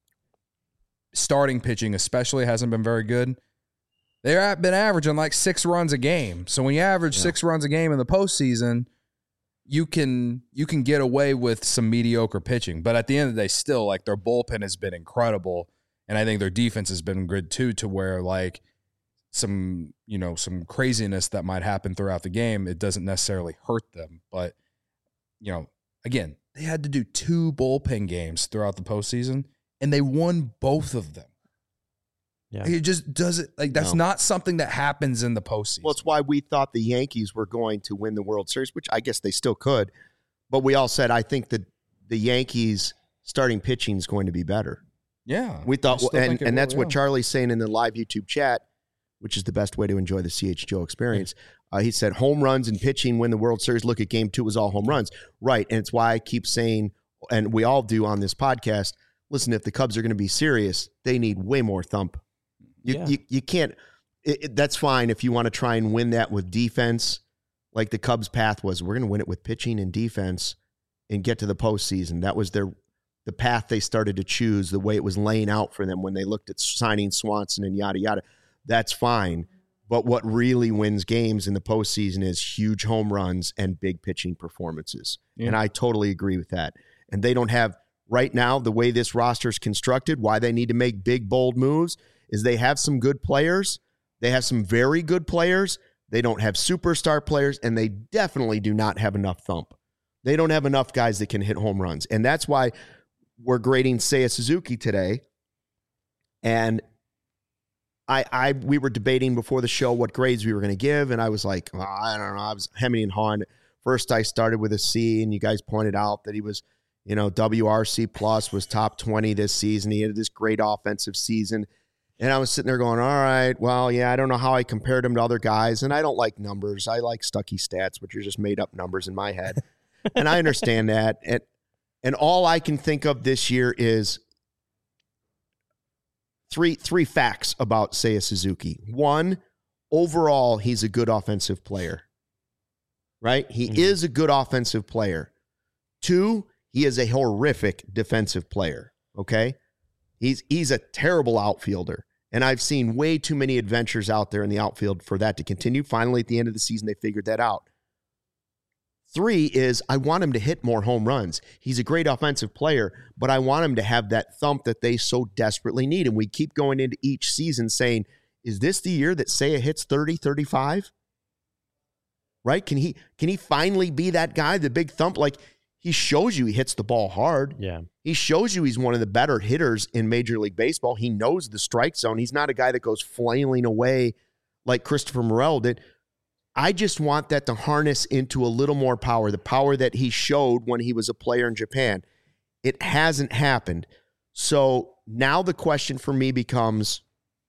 Speaker 4: starting pitching especially hasn't been very good, they've been averaging like six runs a game. So when you average yeah. six runs a game in the postseason, you can you can get away with some mediocre pitching. But at the end of the day, still, like, their bullpen has been incredible. And I think their defense has been good too, to where, like, some, you know, some craziness that might happen throughout the game, it doesn't necessarily hurt them. But, you know, again, they had to do two bullpen games throughout the postseason, and they won both of them.
Speaker 3: Yeah.
Speaker 4: It just doesn't, like, that's
Speaker 1: No.
Speaker 4: not something that happens in the postseason.
Speaker 1: Well, it's why we thought the Yankees were going to win the World Series, which I guess they still could. But we all said, I think that the Yankees starting pitching is going to be better.
Speaker 4: Yeah.
Speaker 1: We thought,
Speaker 4: I still
Speaker 1: and,
Speaker 4: think it
Speaker 1: and
Speaker 4: will,
Speaker 1: that's what
Speaker 4: yeah.
Speaker 1: Charlie's saying in the live YouTube chat, which is the best way to enjoy the C H G O experience. Uh, he said, home runs and pitching win the World Series. Look at game two, was all home runs. Right. And it's why I keep saying, and we all do on this podcast, listen, if the Cubs are going to be serious, they need way more thump. You,
Speaker 3: Yeah.
Speaker 1: you, you can't, it, it, that's fine if you want to try and win that with defense, like the Cubs' path was. We're going to win it with pitching and defense and get to the postseason. That was their the path they started to choose, the way it was laying out for them when they looked at signing Swanson and yada, yada. That's fine. But what really wins games in the postseason is huge home runs and big pitching performances.
Speaker 4: Yeah.
Speaker 1: And I totally agree with that. And they don't have, right now, the way this roster is constructed, why they need to make big, bold moves is they have some good players. They have some very good players. They don't have superstar players, and they definitely do not have enough thump. They don't have enough guys that can hit home runs. And that's why we're grading Seiya Suzuki today And I, I, we were debating before the show what grades we were going to give, and I was like, oh, I don't know. I was hemming and hawing. First, I started with a C, and you guys pointed out that he was, you know, W R C plus, was top twenty this season. He had this great offensive season. And I was sitting there going, all right, well, yeah, I don't know how I compared him to other guys, and I don't like numbers. I like Stuckey stats, which are just made-up numbers in my head. And I understand that. And, and all I can think of this year is Three three facts about Seiya Suzuki. One, overall, he's a good offensive player, right? He mm-hmm. is a good offensive player. Two, he is a horrific defensive player, okay? He's he's a terrible outfielder, and I've seen way too many adventures out there in the outfield for that to continue. Finally, at the end of the season, they figured that out. Three is I want him to hit more home runs. He's a great offensive player, but I want him to have that thump that they so desperately need. And we keep going into each season saying, is this the year that Seiya hits thirty, thirty-five? Right? Can he can he finally be that guy, the big thump? Like, he shows you he hits the ball hard.
Speaker 3: Yeah.
Speaker 1: He shows you he's one of the better hitters in Major League Baseball. He knows the strike zone. He's not a guy that goes flailing away like Christopher Morel did. I just want that to harness into a little more power, the power that he showed when he was a player in Japan. It hasn't happened. So now the question for me becomes,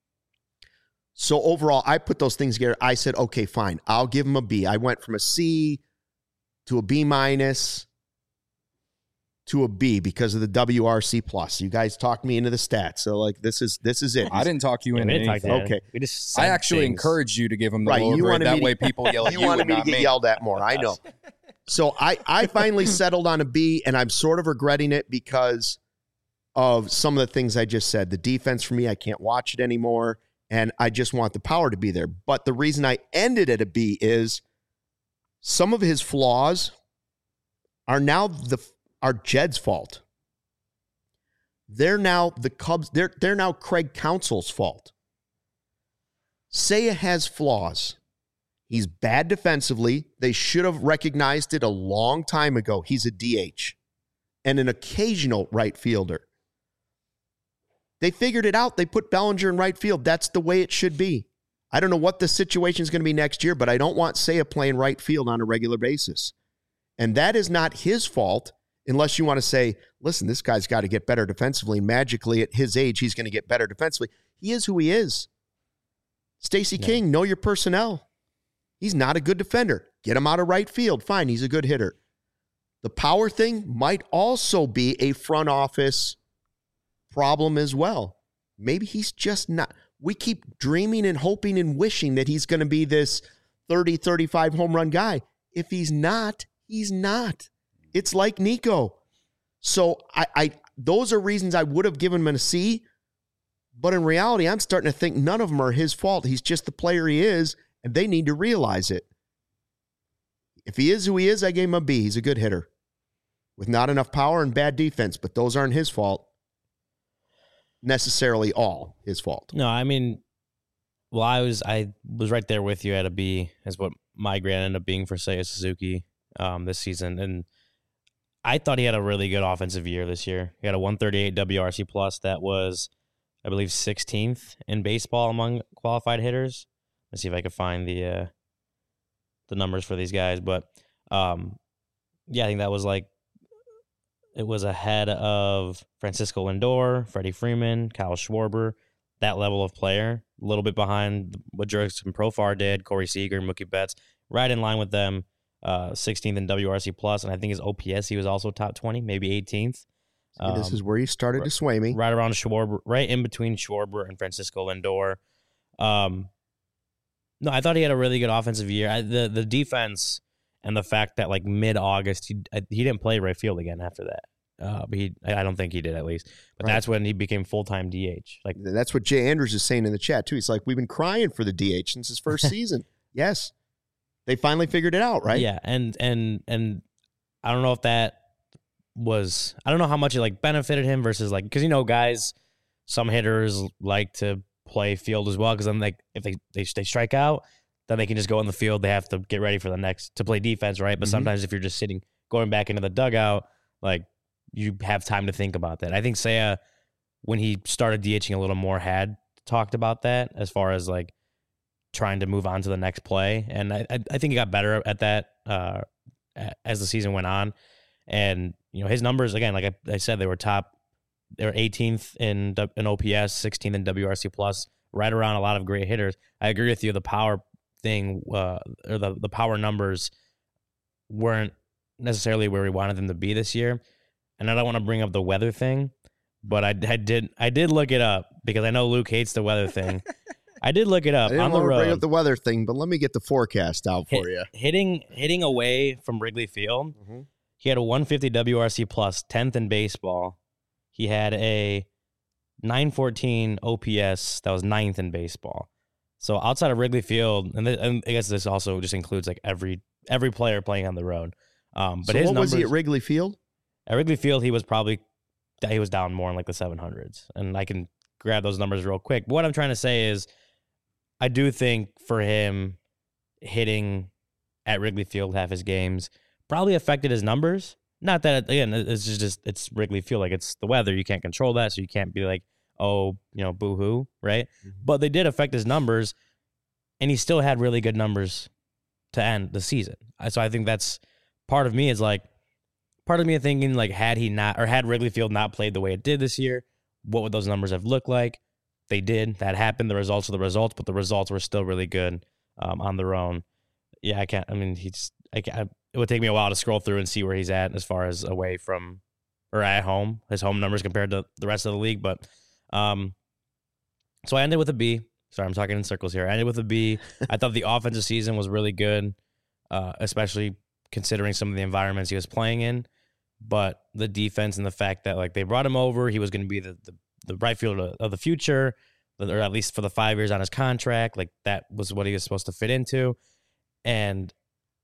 Speaker 1: so overall, I put those things together. I said, okay, fine. I'll give him a B. I went from a C to a B minus to a B because of the W R C plus. You guys talked me into the stats. So like this is this is it.
Speaker 4: I didn't talk you
Speaker 3: Yeah,
Speaker 4: into
Speaker 3: we didn't talk
Speaker 4: anything.
Speaker 3: that.
Speaker 1: Okay.
Speaker 3: We just
Speaker 4: I
Speaker 3: said
Speaker 4: actually
Speaker 3: things.
Speaker 4: encouraged you to give him the
Speaker 1: Right,
Speaker 4: lower
Speaker 1: you
Speaker 4: grade.
Speaker 1: wanted
Speaker 4: That
Speaker 1: me to-
Speaker 4: way people yell at
Speaker 1: You
Speaker 4: you
Speaker 1: wanted
Speaker 4: and
Speaker 1: me to
Speaker 4: not
Speaker 1: get
Speaker 4: me.
Speaker 1: yelled at more. I know. So I, I finally settled on a B, and I'm sort of regretting it because of some of the things I just said. The defense for me, I can't watch it anymore, and I just want the power to be there. But the reason I ended at a B is some of his flaws are now the are Jed's fault. They're now the Cubs, they're they're now Craig Counsell's fault. Seiya has flaws. He's bad defensively. They should have recognized it a long time ago. He's a D H and an occasional right fielder. They figured it out. They put Bellinger in right field. That's the way it should be. I don't know what the situation is going to be next year, but I don't want Seiya playing right field on a regular basis. And that is not his fault unless you want to say, listen, this guy's got to get better defensively. Magically, at his age, he's going to get better defensively. He is who he is. Stacey
Speaker 3: Yeah.
Speaker 1: King, know your personnel. He's not a good defender. Get him out of right field. Fine, he's a good hitter. The power thing might also be a front office problem as well. Maybe he's just not. We keep dreaming and hoping and wishing that he's going to be this thirty, thirty-five home run guy. If he's not, he's not. It's like Nico. So I, I those are reasons I would have given him a C. But in reality, I'm starting to think none of them are his fault. He's just the player he is, and they need to realize it. If he is who he is, I gave him a B. He's a good hitter with not enough power and bad defense, but those aren't his fault. Necessarily all his fault.
Speaker 3: No, I mean, well, I was I was right there with you at a B, is what my grade ended up being for Seiya Suzuki um, this season, and I thought he had a really good offensive year this year. He had a one thirty-eight W R C plus that was, I believe, sixteenth in baseball among qualified hitters. Let's see if I can find the uh, the numbers for these guys, but um, yeah, I think that was like. It was ahead of Francisco Lindor, Freddie Freeman, Kyle Schwarber, that level of player. A little bit behind what Jurickson Profar did, Corey Seager, Mookie Betts, right in line with them. Uh, sixteenth in W R C plus, and I think his O P S he was also top twenty, maybe eighteenth.
Speaker 1: Um, this is where you started
Speaker 3: right,
Speaker 1: to sway me.
Speaker 3: Right around Schwarber, right in between Schwarber and Francisco Lindor. Um, no, I thought he had a really good offensive year. I, the the defense. And the fact that, like, mid-August, he he didn't play right field again after that. Uh, but he, I don't think he did, at least. But
Speaker 1: Right.
Speaker 3: that's when he became full-time D H. Like,
Speaker 1: That's what Jay Andrews is saying in the chat, too. He's like, we've been crying for the D H since his first season. Yes. They finally figured it out, right?
Speaker 3: yeah, and and and I don't know if that was, I don't know how much it, like, benefited him versus, like, because, you know, guys, some hitters like to play field as well, because then, like, if they, they, they strike out, then they can just go in the field. They have to get ready for the next to play defense, right? But
Speaker 1: Mhm.
Speaker 3: sometimes if you're just sitting, going back into the dugout, like you have time to think about that. I think Seiya when he started DHing a little more, had talked about that as far as like trying to move on to the next play. And I, I think he got better at that uh, as the season went on. And, you know, his numbers, again, like I, I said, they were top, they were eighteenth in, in O P S, sixteenth in W R C plus, right around a lot of great hitters. I agree with you. The power thing, uh, or the, the power numbers weren't necessarily where we wanted them to be this year. And I don't want to bring up the weather thing, but I, I did I did look it up because I know Luke hates the weather thing. I did look it up
Speaker 1: I didn't
Speaker 3: on the
Speaker 1: want to
Speaker 3: road.
Speaker 1: bring up the weather thing, but let me get the forecast out for
Speaker 3: Hit,
Speaker 1: you.
Speaker 3: Hitting hitting away from Wrigley Field,
Speaker 1: Mm-hmm.
Speaker 3: he had a one fifty W R C plus, tenth in baseball. He had a nine fourteen O P S that was ninth in baseball. So outside of Wrigley Field, and, th- and I guess this also just includes like every every player playing on the road. Um, but
Speaker 1: so
Speaker 3: his
Speaker 1: what
Speaker 3: numbers,
Speaker 1: was he at Wrigley Field?
Speaker 3: At Wrigley Field, he was probably he was down more in like the seven hundreds, and I can grab those numbers real quick. But what I'm trying to say is, I do think for him hitting at Wrigley Field half his games probably affected his numbers. Not that, again, it's just, just it's Wrigley Field. Like, it's the weather. You can't control that, so you can't be like, oh, you know, boo-hoo, right? Mm-hmm. But they did affect his numbers, and he still had really good numbers to end the season. So I think that's part of me is like, part of me thinking, like, had he not, or had Wrigley Field not played the way it did this year, what would those numbers have looked like? They did. That happened. The results are the results, but the results were still really good um, on their own. Yeah, I can't, I mean, he's, I can't, it would take me a while to scroll through and see where he's at as far as away from or at home, his home numbers compared to the rest of the league. But um, so I ended with a B. Sorry, I'm talking in circles here. I ended with a B. I thought the offensive season was really good, uh, especially considering some of the environments he was playing in. But the defense and the fact that like they brought him over, he was going to be the, the the right fielder of the future, or at least for the five years on his contract. Like that was what he was supposed to fit into. And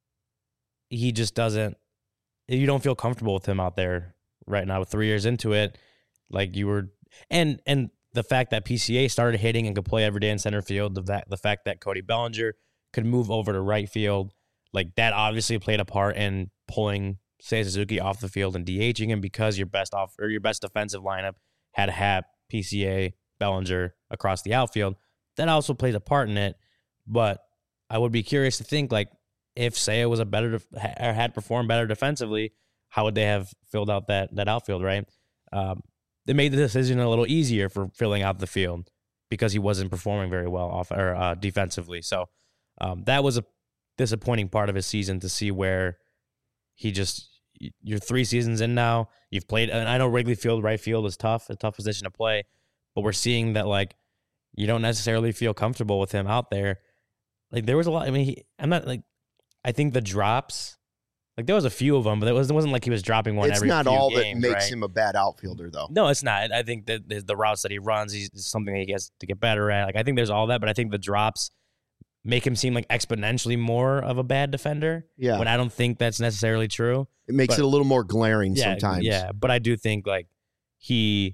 Speaker 3: he just doesn't, you don't feel comfortable with him out there right now with three years into it. Like you were, and, and the fact that P C A started hitting and could play every day in center field, the fact, the fact that Cody Bellinger could move over to right field, like that obviously played a part in pulling Seiya Suzuki off the field and DHing him because your best off or your best defensive lineup had Happ, P C A, Bellinger across the outfield. That also plays a part in it. But I would be curious to think, like, if Seiya was a better def- or had performed better defensively, how would they have filled out that that outfield, right? Um, they made the decision a little easier for filling out the field because he wasn't performing very well off or uh, defensively. So um, that was a disappointing part of his season to see where he just, you're three seasons in now. You've played, and I know Wrigley Field, right field is tough, a tough position to play, but we're seeing that like you don't necessarily feel comfortable with him out there. Like there was a lot. I mean, he, I'm not like, I think the drops, like there was a few of them, but it, was, it wasn't like he was dropping one
Speaker 1: it's
Speaker 3: every
Speaker 1: not
Speaker 3: few
Speaker 1: all
Speaker 3: games,
Speaker 1: that makes
Speaker 3: right?
Speaker 1: him a bad outfielder, though.
Speaker 3: No, it's not. I think that the, the routes that he runs, he's it's something that he has to get better at. Like I think there's all that, but I think the drops make him seem like exponentially more of a bad defender.
Speaker 1: Yeah.
Speaker 3: When I don't think that's necessarily true.
Speaker 1: It makes
Speaker 3: But-
Speaker 1: it a little more glaring
Speaker 3: Yeah,
Speaker 1: sometimes.
Speaker 3: yeah. But I do think like he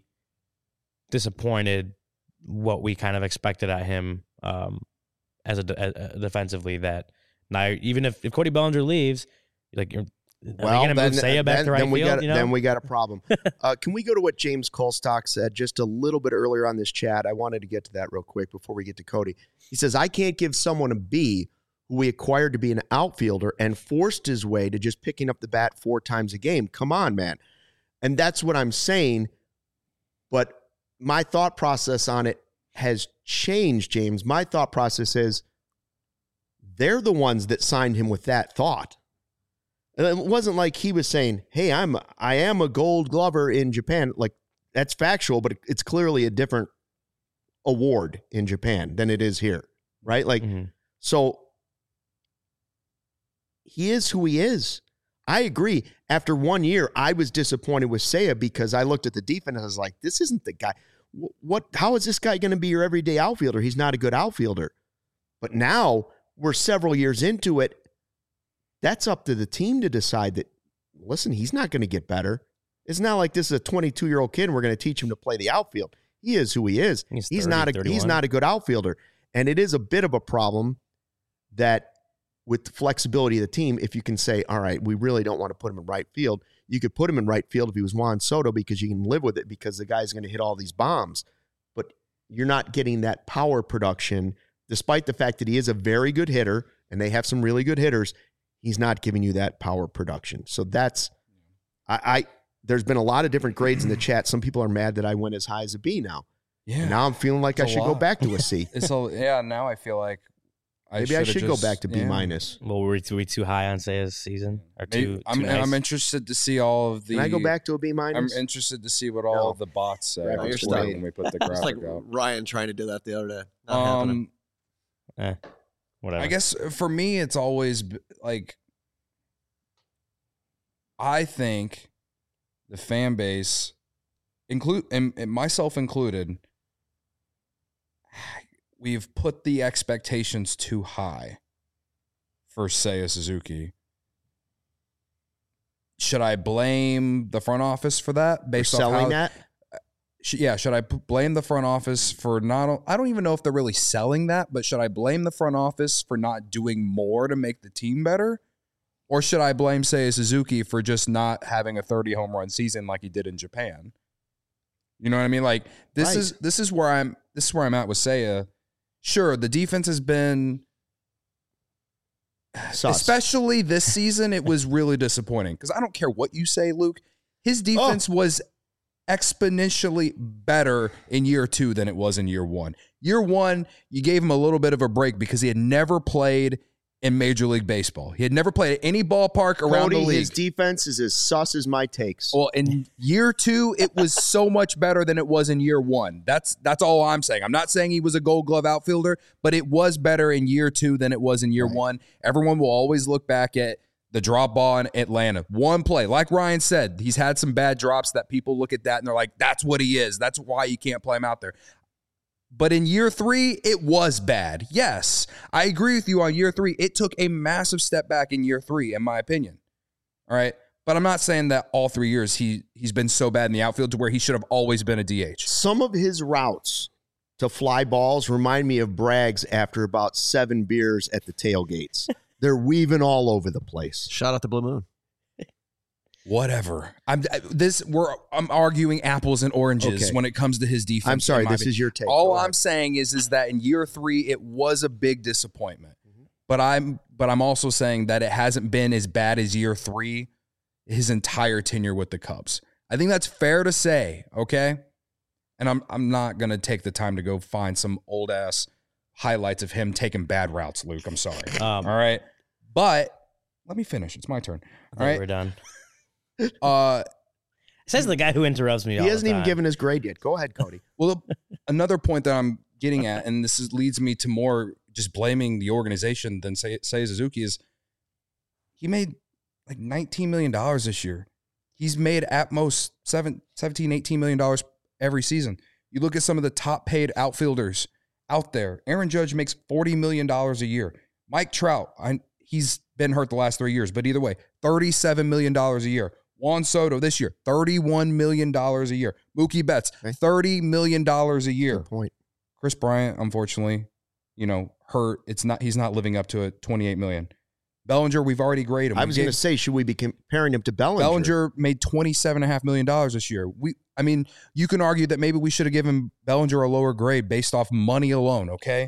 Speaker 3: disappointed what we kind of expected at him um, as a, de- a- a defensively. That now even if, if Cody Bellinger leaves, like you're are
Speaker 1: Well,
Speaker 3: they going to
Speaker 1: then,
Speaker 3: move Seiya back
Speaker 1: then,
Speaker 3: to right
Speaker 1: then we
Speaker 3: field?
Speaker 1: got
Speaker 3: you know?
Speaker 1: then we got a problem. uh, can we go to what James Colstock said just a little bit earlier on this chat? I wanted to get to that real quick before we get to Cody. He says, I can't give someone a B who we acquired to be an outfielder and forced his way to just picking up the bat four times a game. Come on, man. And that's what I'm saying. But my thought process on it has changed, James. My thought process is they're the ones that signed him with that thought. And it wasn't like he was saying, hey, I'm I am a gold glover in Japan. Like, that's factual, but it's clearly a different award in Japan than it is here, right? Like,
Speaker 3: Mm-hmm.
Speaker 1: so he is who he is. I agree. After one year, I was disappointed with Seiya because I looked at the defense and I was like, this isn't the guy. What? How is this guy going to be your everyday outfielder? He's not a good outfielder. But now we're several years into it. That's up to the team to decide that, listen, he's not going to get better. It's not like this is a twenty-two-year-old kid and we're going to teach him to play the outfield. He is who he is.
Speaker 3: He's
Speaker 1: He's
Speaker 3: thirty,
Speaker 1: not a
Speaker 3: thirty-one.
Speaker 1: he's not a good outfielder. And it is a bit of a problem that with the flexibility of the team, if you can say, all right, we really don't want to put him in right field you could put him in right field if he was Juan Soto because you can live with it because the guy's going to hit all these bombs. But you're not getting that power production, despite the fact that he is a very good hitter and they have some really good hitters. He's not giving you that power production. So that's, I, I there's been a lot of different grades in the chat. Some people are mad that I went as high as a B now.
Speaker 4: Yeah.
Speaker 1: And now I'm feeling like
Speaker 4: It's
Speaker 1: I
Speaker 4: a
Speaker 1: should go
Speaker 4: lot.
Speaker 1: back to a C.
Speaker 4: It's a, yeah, now I feel like I
Speaker 1: Maybe I
Speaker 4: should've
Speaker 1: should
Speaker 4: just-
Speaker 1: go back to B
Speaker 4: yeah.
Speaker 1: minus.
Speaker 3: Well, were we, were we too high on Seiya's season? Or
Speaker 4: Maybe-
Speaker 3: too, too
Speaker 4: I'm,
Speaker 3: nice?
Speaker 4: I'm interested to see all of the.
Speaker 1: Can I go back to a B
Speaker 4: I'm
Speaker 1: minus?
Speaker 4: interested to see what all
Speaker 1: No.
Speaker 4: of the bots say
Speaker 1: Right,
Speaker 4: on
Speaker 2: you're
Speaker 4: Twitter
Speaker 2: stuck.
Speaker 4: when we put the
Speaker 2: It's like
Speaker 4: graphic out.
Speaker 2: Ryan trying to do that the other day. Not happening.
Speaker 4: Um,
Speaker 3: Eh, whatever.
Speaker 4: I guess for me, it's always b- like I think the fan base, include and, and myself included, we've put the expectations too high for Seiya Suzuki. Should I blame the front office for that?
Speaker 1: For
Speaker 4: Based on
Speaker 1: selling
Speaker 4: how,
Speaker 1: that?
Speaker 4: Sh- yeah, should I p- blame the front office for not? I don't even know if they're really selling that, but should I blame the front office for not doing more to make the team better, or should I blame Seiya Suzuki for just not having a thirty home run season like he did in Japan? You know what I mean? Like this
Speaker 1: Right.
Speaker 4: is this is where I'm this is where I'm at with Seiya. Sure, the defense has been,
Speaker 1: Sus.
Speaker 4: especially this season, it was really disappointing because I don't care what you say, Luke. His defense was exponentially better in year two than it was in year one. Year one, you gave him a little bit of a break because he had never played in Major League Baseball. He had never played at any ballpark around
Speaker 1: Cody,
Speaker 4: the league.
Speaker 1: his defense is as sus as my takes.
Speaker 4: Well, in year two, it was so much better than it was in year one. That's that's all I'm saying. I'm not saying he was a Gold Glove outfielder, but it was better in year two than it was in year
Speaker 1: Right.
Speaker 4: one. Everyone will always look back at the drop ball in Atlanta. One play, like Ryan said, he's had some bad drops that people look at that and they're like, that's what he is. That's why you can't play him out there. But in year three, it was bad. Yes, I agree with you on year three. It took a massive step back in year three, in my opinion. All right. But I'm not saying that all three years he, he's been so bad in the outfield to where he should have always been a D H.
Speaker 1: Some of his routes to fly balls remind me of Bragg's after about seven beers at the tailgates. They're weaving all over the place.
Speaker 2: Shout out to Blue Moon.
Speaker 4: Whatever. I'm I- this. We're I'm arguing apples and oranges
Speaker 1: Okay.
Speaker 4: when it comes to his defense.
Speaker 1: I'm sorry,
Speaker 4: in my
Speaker 1: this
Speaker 4: opinion.
Speaker 1: is your take.
Speaker 4: All
Speaker 1: Go
Speaker 4: I'm
Speaker 1: ahead.
Speaker 4: saying is is that in year three it was a big disappointment. But I'm but I'm also saying that it hasn't been as bad as year three his entire tenure with the Cubs. I think that's fair to say, okay? And I'm I'm not gonna take the time to go find some old ass highlights of him taking bad routes, Luke. I'm sorry.
Speaker 3: Um,
Speaker 4: All right. But let me finish. It's my turn.
Speaker 3: I
Speaker 4: All
Speaker 3: think
Speaker 4: right.
Speaker 3: we're done.
Speaker 4: Uh
Speaker 3: Says the guy who interrupts me. all
Speaker 1: He
Speaker 3: the
Speaker 1: hasn't even
Speaker 3: time.
Speaker 1: given his grade yet. Go ahead, Cody.
Speaker 4: Well, another point that I'm getting at, and this is, leads me to more just blaming the organization than say say Suzuki, is he made like nineteen million dollars this year. He's made at most seven, seventeen, eighteen million dollars every season. You look at some of the top paid outfielders out there. Aaron Judge makes forty million dollars a year. Mike Trout, I, he's been hurt the last three years, but either way, thirty-seven million dollars a year. Juan Soto this year, thirty-one million dollars a year. Mookie Betts,
Speaker 1: Okay.
Speaker 4: thirty million dollars a year.
Speaker 1: Good point.
Speaker 4: Chris Bryant, unfortunately, you know, hurt. It's not. He's not living up to it. twenty-eight million. Bellinger, we've already graded him.
Speaker 1: I
Speaker 4: We
Speaker 1: was
Speaker 4: gave-
Speaker 1: going to say, should we be comparing him to Bellinger?
Speaker 4: Bellinger made twenty-seven and a half million dollars this year. We, I mean, you can argue that maybe we should have given Bellinger a lower grade based off money alone. Okay,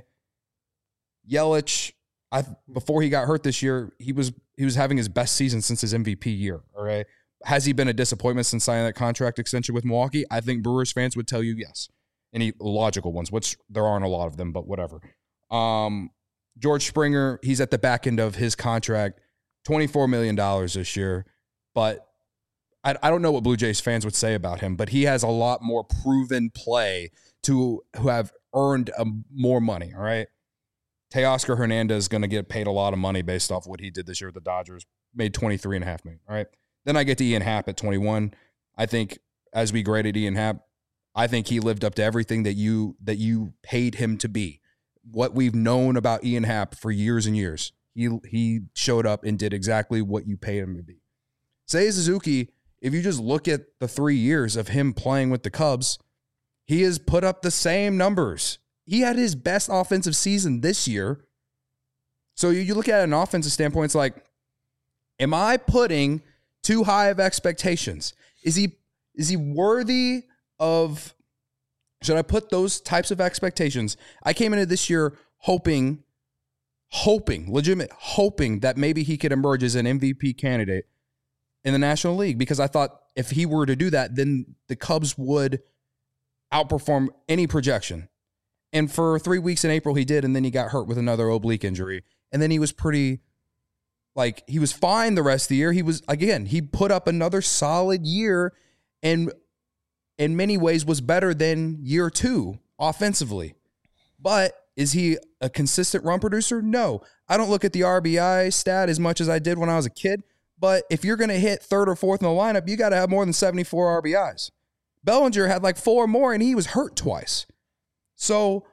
Speaker 4: Yelich, I before he got hurt this year, he was he was having his best season since his M V P year. All right, has he been a disappointment since signing that contract extension with Milwaukee? I think Brewers fans would tell you yes. Any logical ones, which there aren't a lot of them, but whatever. Um, George Springer, he's at the back end of his contract, twenty-four million dollars this year. But I, I don't know what Blue Jays fans would say about him, but he has a lot more proven play to who have earned a, more money, all right? Teoscar Hernandez is going to get paid a lot of money based off what he did this year with the Dodgers, made twenty-three and a half million, all right? Then I get to Ian Happ at twenty-one. I think as we graded Ian Happ, I think he lived up to everything that you that you paid him to be. What we've known about Ian Happ for years and years. He he showed up and did exactly what you paid him to be. Seiya Suzuki, if you just look at the three years of him playing with the Cubs, he has put up the same numbers. He had his best offensive season this year. So you, you look at an offensive standpoint, it's like, am I putting too high of expectations? Is he is he worthy of, should I put those types of expectations? I came into this year hoping, hoping, legitimate, hoping that maybe he could emerge as an M V P candidate in the National League, because I thought if he were to do that, then the Cubs would outperform any projection. And for three weeks in April, he did, and then he got hurt with another oblique injury. And then he was pretty, like, he was fine the rest of the year. He was, again, he put up another solid year and in many ways was better than year two offensively. But is he a consistent run producer? No. I don't look at the R B I stat as much as I did when I was a kid. But if you're going to hit third or fourth in the lineup, you got to have more than seventy-four R B Is. Bellinger had like four more, and he was hurt twice. So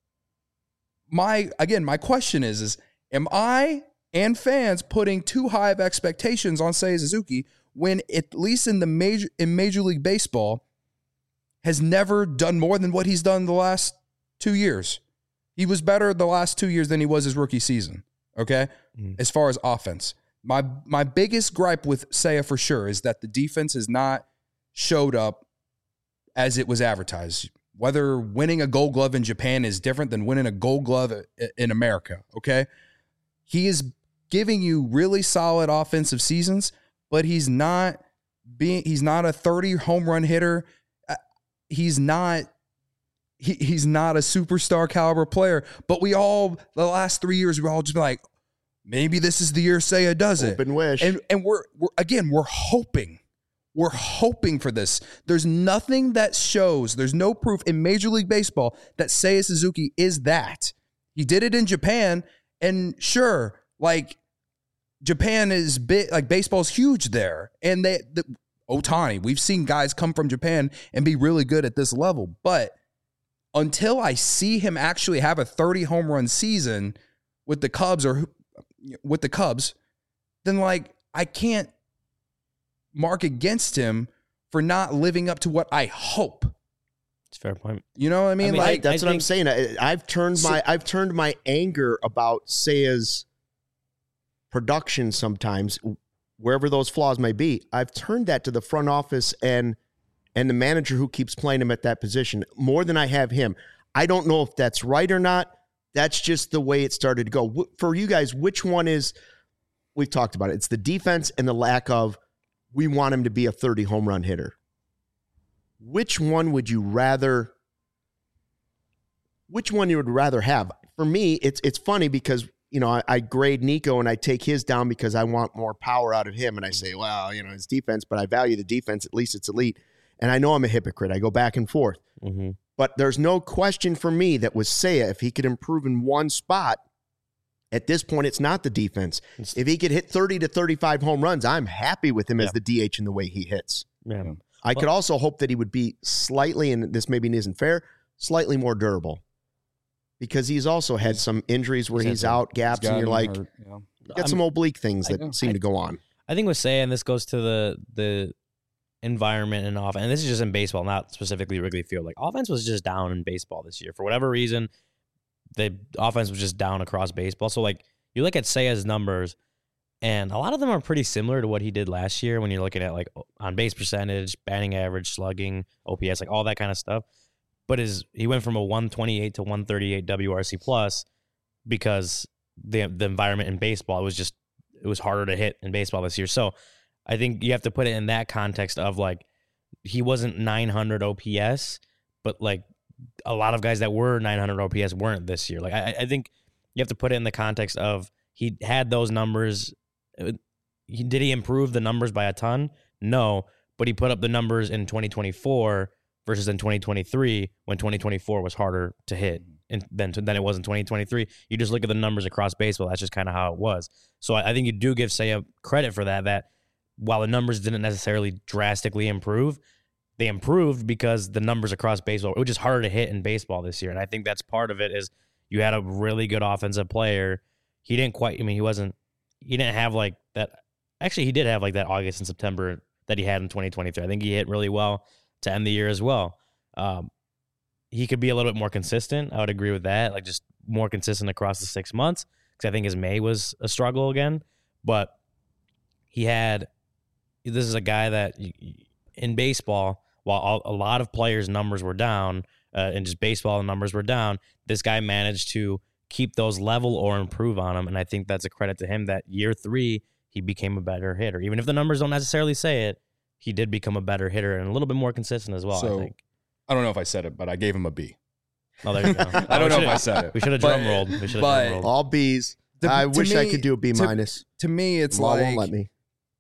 Speaker 4: my, again, my question is, is am I and fans putting too high of expectations on Seiya Suzuki when, at least in the major in Major League Baseball, has never done more than what he's done the last two years? He was better the last two years than he was his rookie season, okay, mm. as far as offense. My my biggest gripe with Seiya for sure is that the defense has not showed up as it was advertised. Whether winning a Gold Glove in Japan is different than winning a Gold Glove in America, okay? He is giving you really solid offensive seasons, but he's not being he's not a thirty home run hitter. He's not he, he's not a superstar caliber player. But we all, the last three years, we're all just like, maybe this is the year Seiya does it.
Speaker 1: Hope and wish.
Speaker 4: And and we're we're again, we're hoping. We're hoping for this. There's nothing that shows, there's no proof in Major League Baseball that Seiya Suzuki is that. He did it in Japan, and sure, like, Japan is big, like, baseball's huge there. And they, the, Ohtani, we've seen guys come from Japan and be really good at this level. But until I see him actually have a thirty home run season with the Cubs or with the Cubs, then, like, I can't mark against him for not living up to what I hope.
Speaker 3: It's a fair point.
Speaker 4: You know what I mean?
Speaker 3: I mean,
Speaker 4: like
Speaker 1: I, that's
Speaker 3: I
Speaker 1: what
Speaker 3: think,
Speaker 1: I'm saying. I, I've turned my I've turned my anger about Seiya's production sometimes, wherever those flaws may be. I've turned that to the front office and and the manager who keeps playing him at that position more than I have him. I don't know if that's right or not. That's just the way it started to go. For you guys, which one is? We've talked about it. It's the defense and the lack of. We want him to be a thirty home run hitter. Which one would you rather, which one you would rather have? For me, it's it's funny because, you know, I, I grade Nico and I take his down because I want more power out of him. And I say, well, you know, his defense, but I value the defense. At least it's elite. And I know I'm a hypocrite. I go back and forth. Mm-hmm. But there's no question for me that with Seiya, if he could improve in one spot, at this point, it's not the defense. If he could hit thirty to thirty-five home runs, I'm happy with him yeah. as the D H in the way he hits. Yeah. I well, could also hope that he would be slightly, and this maybe isn't fair, slightly more durable. Because he's also had some injuries where he's, he's out, gaps, and you're like, hurt, yeah. got I'm, some oblique things that I, seem I, to go on.
Speaker 3: I think with Seiya, and this goes to the the environment and offense, and this is just in baseball, not specifically Wrigley Field. Like, offense was just down in baseball this year. For whatever reason, the offense was just down across baseball. So, like, you look at Seiya's numbers, and a lot of them are pretty similar to what he did last year when you're looking at, like, on-base percentage, batting average, slugging, O P S, like, all that kind of stuff. But his he went from a one twenty-eight to one thirty-eight W R C plus because the the environment in baseball, it was just, it was harder to hit in baseball this year. So, I think you have to put it in that context of, like, he wasn't nine hundred O P S, but, like, a lot of guys that were nine hundred O P S weren't this year. Like, I, I think you have to put it in the context of he had those numbers. He, did he improve the numbers by a ton? No, but he put up the numbers in twenty twenty-four versus in twenty twenty-three when twenty twenty-four was harder to hit and than, than it was in twenty twenty-three. You just look at the numbers across baseball. That's just kind of how it was. So I, I think you do give Seiya credit for that, that while the numbers didn't necessarily drastically improve, they improved because the numbers across baseball, it was just harder to hit in baseball this year. And I think that's part of it is you had a really good offensive player. He didn't quite, I mean, he wasn't, he didn't have like that. Actually, he did have like that August and September that he had in twenty twenty-three. I think he hit really well to end the year as well. Um, he could be a little bit more consistent. I would agree with that. Like, just more consistent across the six months. Because I think his May was a struggle again. But he had this is a guy that you, in baseball, while a lot of players' numbers were down, uh, and just baseball numbers were down, this guy managed to keep those level or improve on them. And I think that's a credit to him that year three, he became a better hitter. Even if the numbers don't necessarily say it, he did become a better hitter and a little bit more consistent as well,
Speaker 4: So,
Speaker 3: I think.
Speaker 4: I don't know if I said it, but I gave him a B.
Speaker 3: Oh, there you go.
Speaker 4: I don't know if I said it.
Speaker 3: We should have
Speaker 4: But-
Speaker 3: drum rolled. We should have
Speaker 4: but-
Speaker 3: drum rolled.
Speaker 1: All B's.
Speaker 4: To-
Speaker 1: I
Speaker 4: to
Speaker 1: wish I
Speaker 4: me-
Speaker 1: could do a B
Speaker 4: to-
Speaker 1: minus.
Speaker 4: To me, it's
Speaker 1: Law
Speaker 4: like
Speaker 1: won't let me.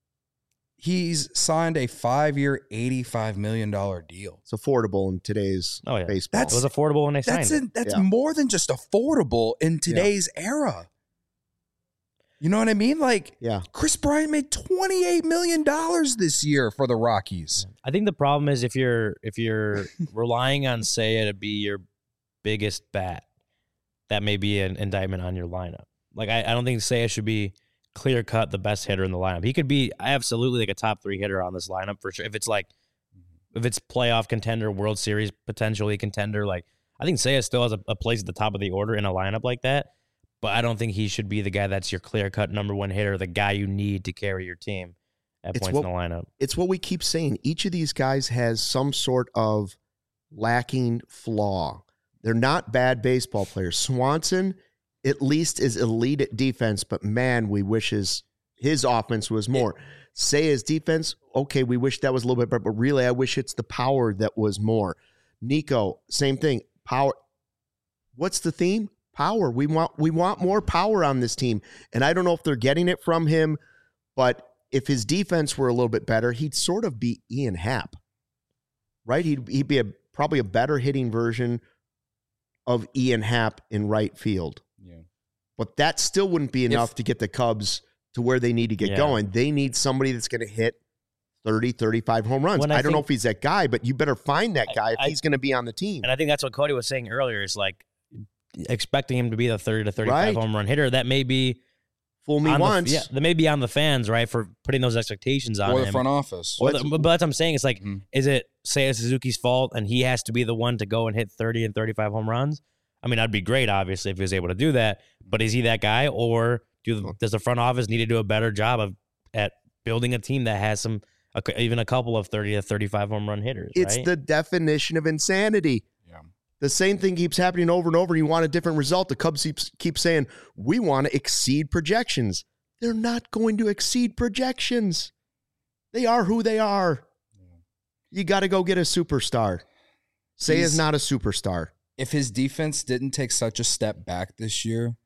Speaker 4: he's signed a five-year, eighty-five million dollars deal.
Speaker 1: It's affordable in today's
Speaker 3: Oh, yeah.
Speaker 1: baseball.
Speaker 3: It was affordable when they signed
Speaker 4: That's
Speaker 3: it.
Speaker 4: a, that's
Speaker 1: Yeah.
Speaker 4: more than just affordable in today's era. You know what I mean? Like
Speaker 1: yeah.
Speaker 4: Chris Bryant made twenty-eight million dollars this year for the Rockies.
Speaker 3: I think the problem is if you're if you're relying on Seiya to be your biggest bat, that may be an indictment on your lineup. Like I, I don't think Seiya should be clear cut the best hitter in the lineup. He could be absolutely like a top three hitter on this lineup for sure. If it's like if it's playoff contender, World Series potentially contender, like I think Seiya still has a, a place at the top of the order in a lineup like that. But I don't think he should be the guy that's your clear cut number one hitter, the guy you need to carry your team at
Speaker 1: It's
Speaker 3: points
Speaker 1: what-
Speaker 3: in the lineup.
Speaker 1: It's what we keep saying. Each of these guys has some sort of lacking flaw. They're not bad baseball players. Swanson, at least, is elite at defense, but man, we wish his, his offense was more. Say his defense, okay, we wish that was a little bit better, but really, I wish it's the power that was more. Nico, same thing. Power. What's the theme? Power. We want we want more power on this team. And I don't know if they're getting it from him, but if his defense were a little bit better, he'd sort of be Ian Happ, right? He'd, he'd be a, probably a better hitting version of Ian Happ in right field.
Speaker 4: Yeah.
Speaker 1: But that still wouldn't be enough
Speaker 4: If-
Speaker 1: to get the Cubs to where they need to get
Speaker 3: Yeah.
Speaker 1: going. They need somebody that's going to hit thirty, thirty-five home runs.
Speaker 3: When
Speaker 1: I,
Speaker 3: I
Speaker 1: don't know
Speaker 3: think-
Speaker 1: if he's that guy, but you better find that guy if
Speaker 3: I-
Speaker 1: he's going to be on the team.
Speaker 3: And I think that's what Cody was saying earlier is like expecting him to be the thirty to thirty-five
Speaker 1: Right.
Speaker 3: home run hitter. That may be
Speaker 1: Fool me
Speaker 3: on the-
Speaker 1: once.
Speaker 3: yeah, that may be on the fans, right, for putting those expectations on
Speaker 4: Or the
Speaker 3: him.
Speaker 4: front office.
Speaker 3: Or the- but that's what I'm saying. It's like,
Speaker 4: Mhm.
Speaker 3: is it Seiya Suzuki's fault and he has to be the one to go and hit thirty and thirty-five home runs? I mean, that'd be great, obviously, if he was able to do that. But is he that guy, or do does the front office need to do a better job of at building a team that has some, a, even a couple of thirty to thirty-five home run hitters?
Speaker 1: It's
Speaker 3: right?
Speaker 1: the definition of insanity.
Speaker 4: Yeah.
Speaker 1: The same thing keeps happening over and over. You want a different result. The Cubs keep, keep saying, we want to exceed projections. They're not going to exceed projections. They are who they are. You got to go get a superstar. Say is
Speaker 4: He's-
Speaker 1: not a superstar.
Speaker 4: If his defense didn't take such a step back this year,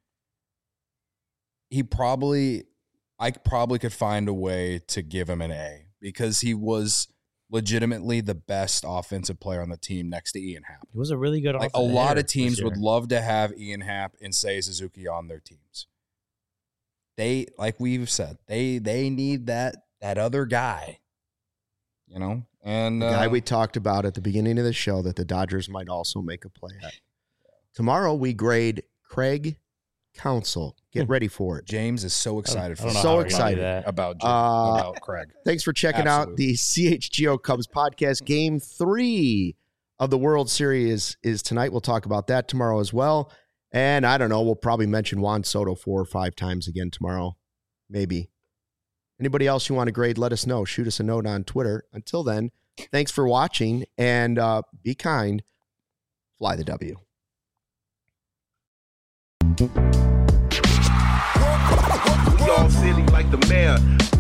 Speaker 4: he probably, I probably could find a way to give him an A because he was legitimately the best offensive player on the team next to Ian Happ.
Speaker 3: He was a really good
Speaker 4: Like a
Speaker 3: offensive
Speaker 4: lot
Speaker 3: hitter
Speaker 4: of teams
Speaker 3: this
Speaker 4: would
Speaker 3: year.
Speaker 4: love to have Ian Happ and Seiya Suzuki on their teams. They, like we've said, they they need that that other guy, you know. And
Speaker 1: The
Speaker 4: uh,
Speaker 1: guy we talked about at the beginning of the show that the Dodgers might also make a play at. Tomorrow we grade Craig Counsell. Get ready for it.
Speaker 4: James is so
Speaker 3: I don't-
Speaker 4: excited
Speaker 3: I
Speaker 4: for
Speaker 3: don't know
Speaker 1: So
Speaker 3: how we're gonna do
Speaker 1: excited.
Speaker 3: that.
Speaker 4: about Jim,
Speaker 1: Uh,
Speaker 4: about Craig.
Speaker 1: Thanks for checking out
Speaker 4: Absolutely.
Speaker 1: the C H G O Cubs podcast. Game three of the World Series is tonight. We'll talk about that tomorrow as well. And I don't know, we'll probably mention Juan Soto four or five times again tomorrow. Maybe. Anybody else you want to grade, let us know. Shoot us a note on Twitter. Until then, thanks for watching and uh, be kind. Fly the W.
Speaker 5: We all silly like the mayor.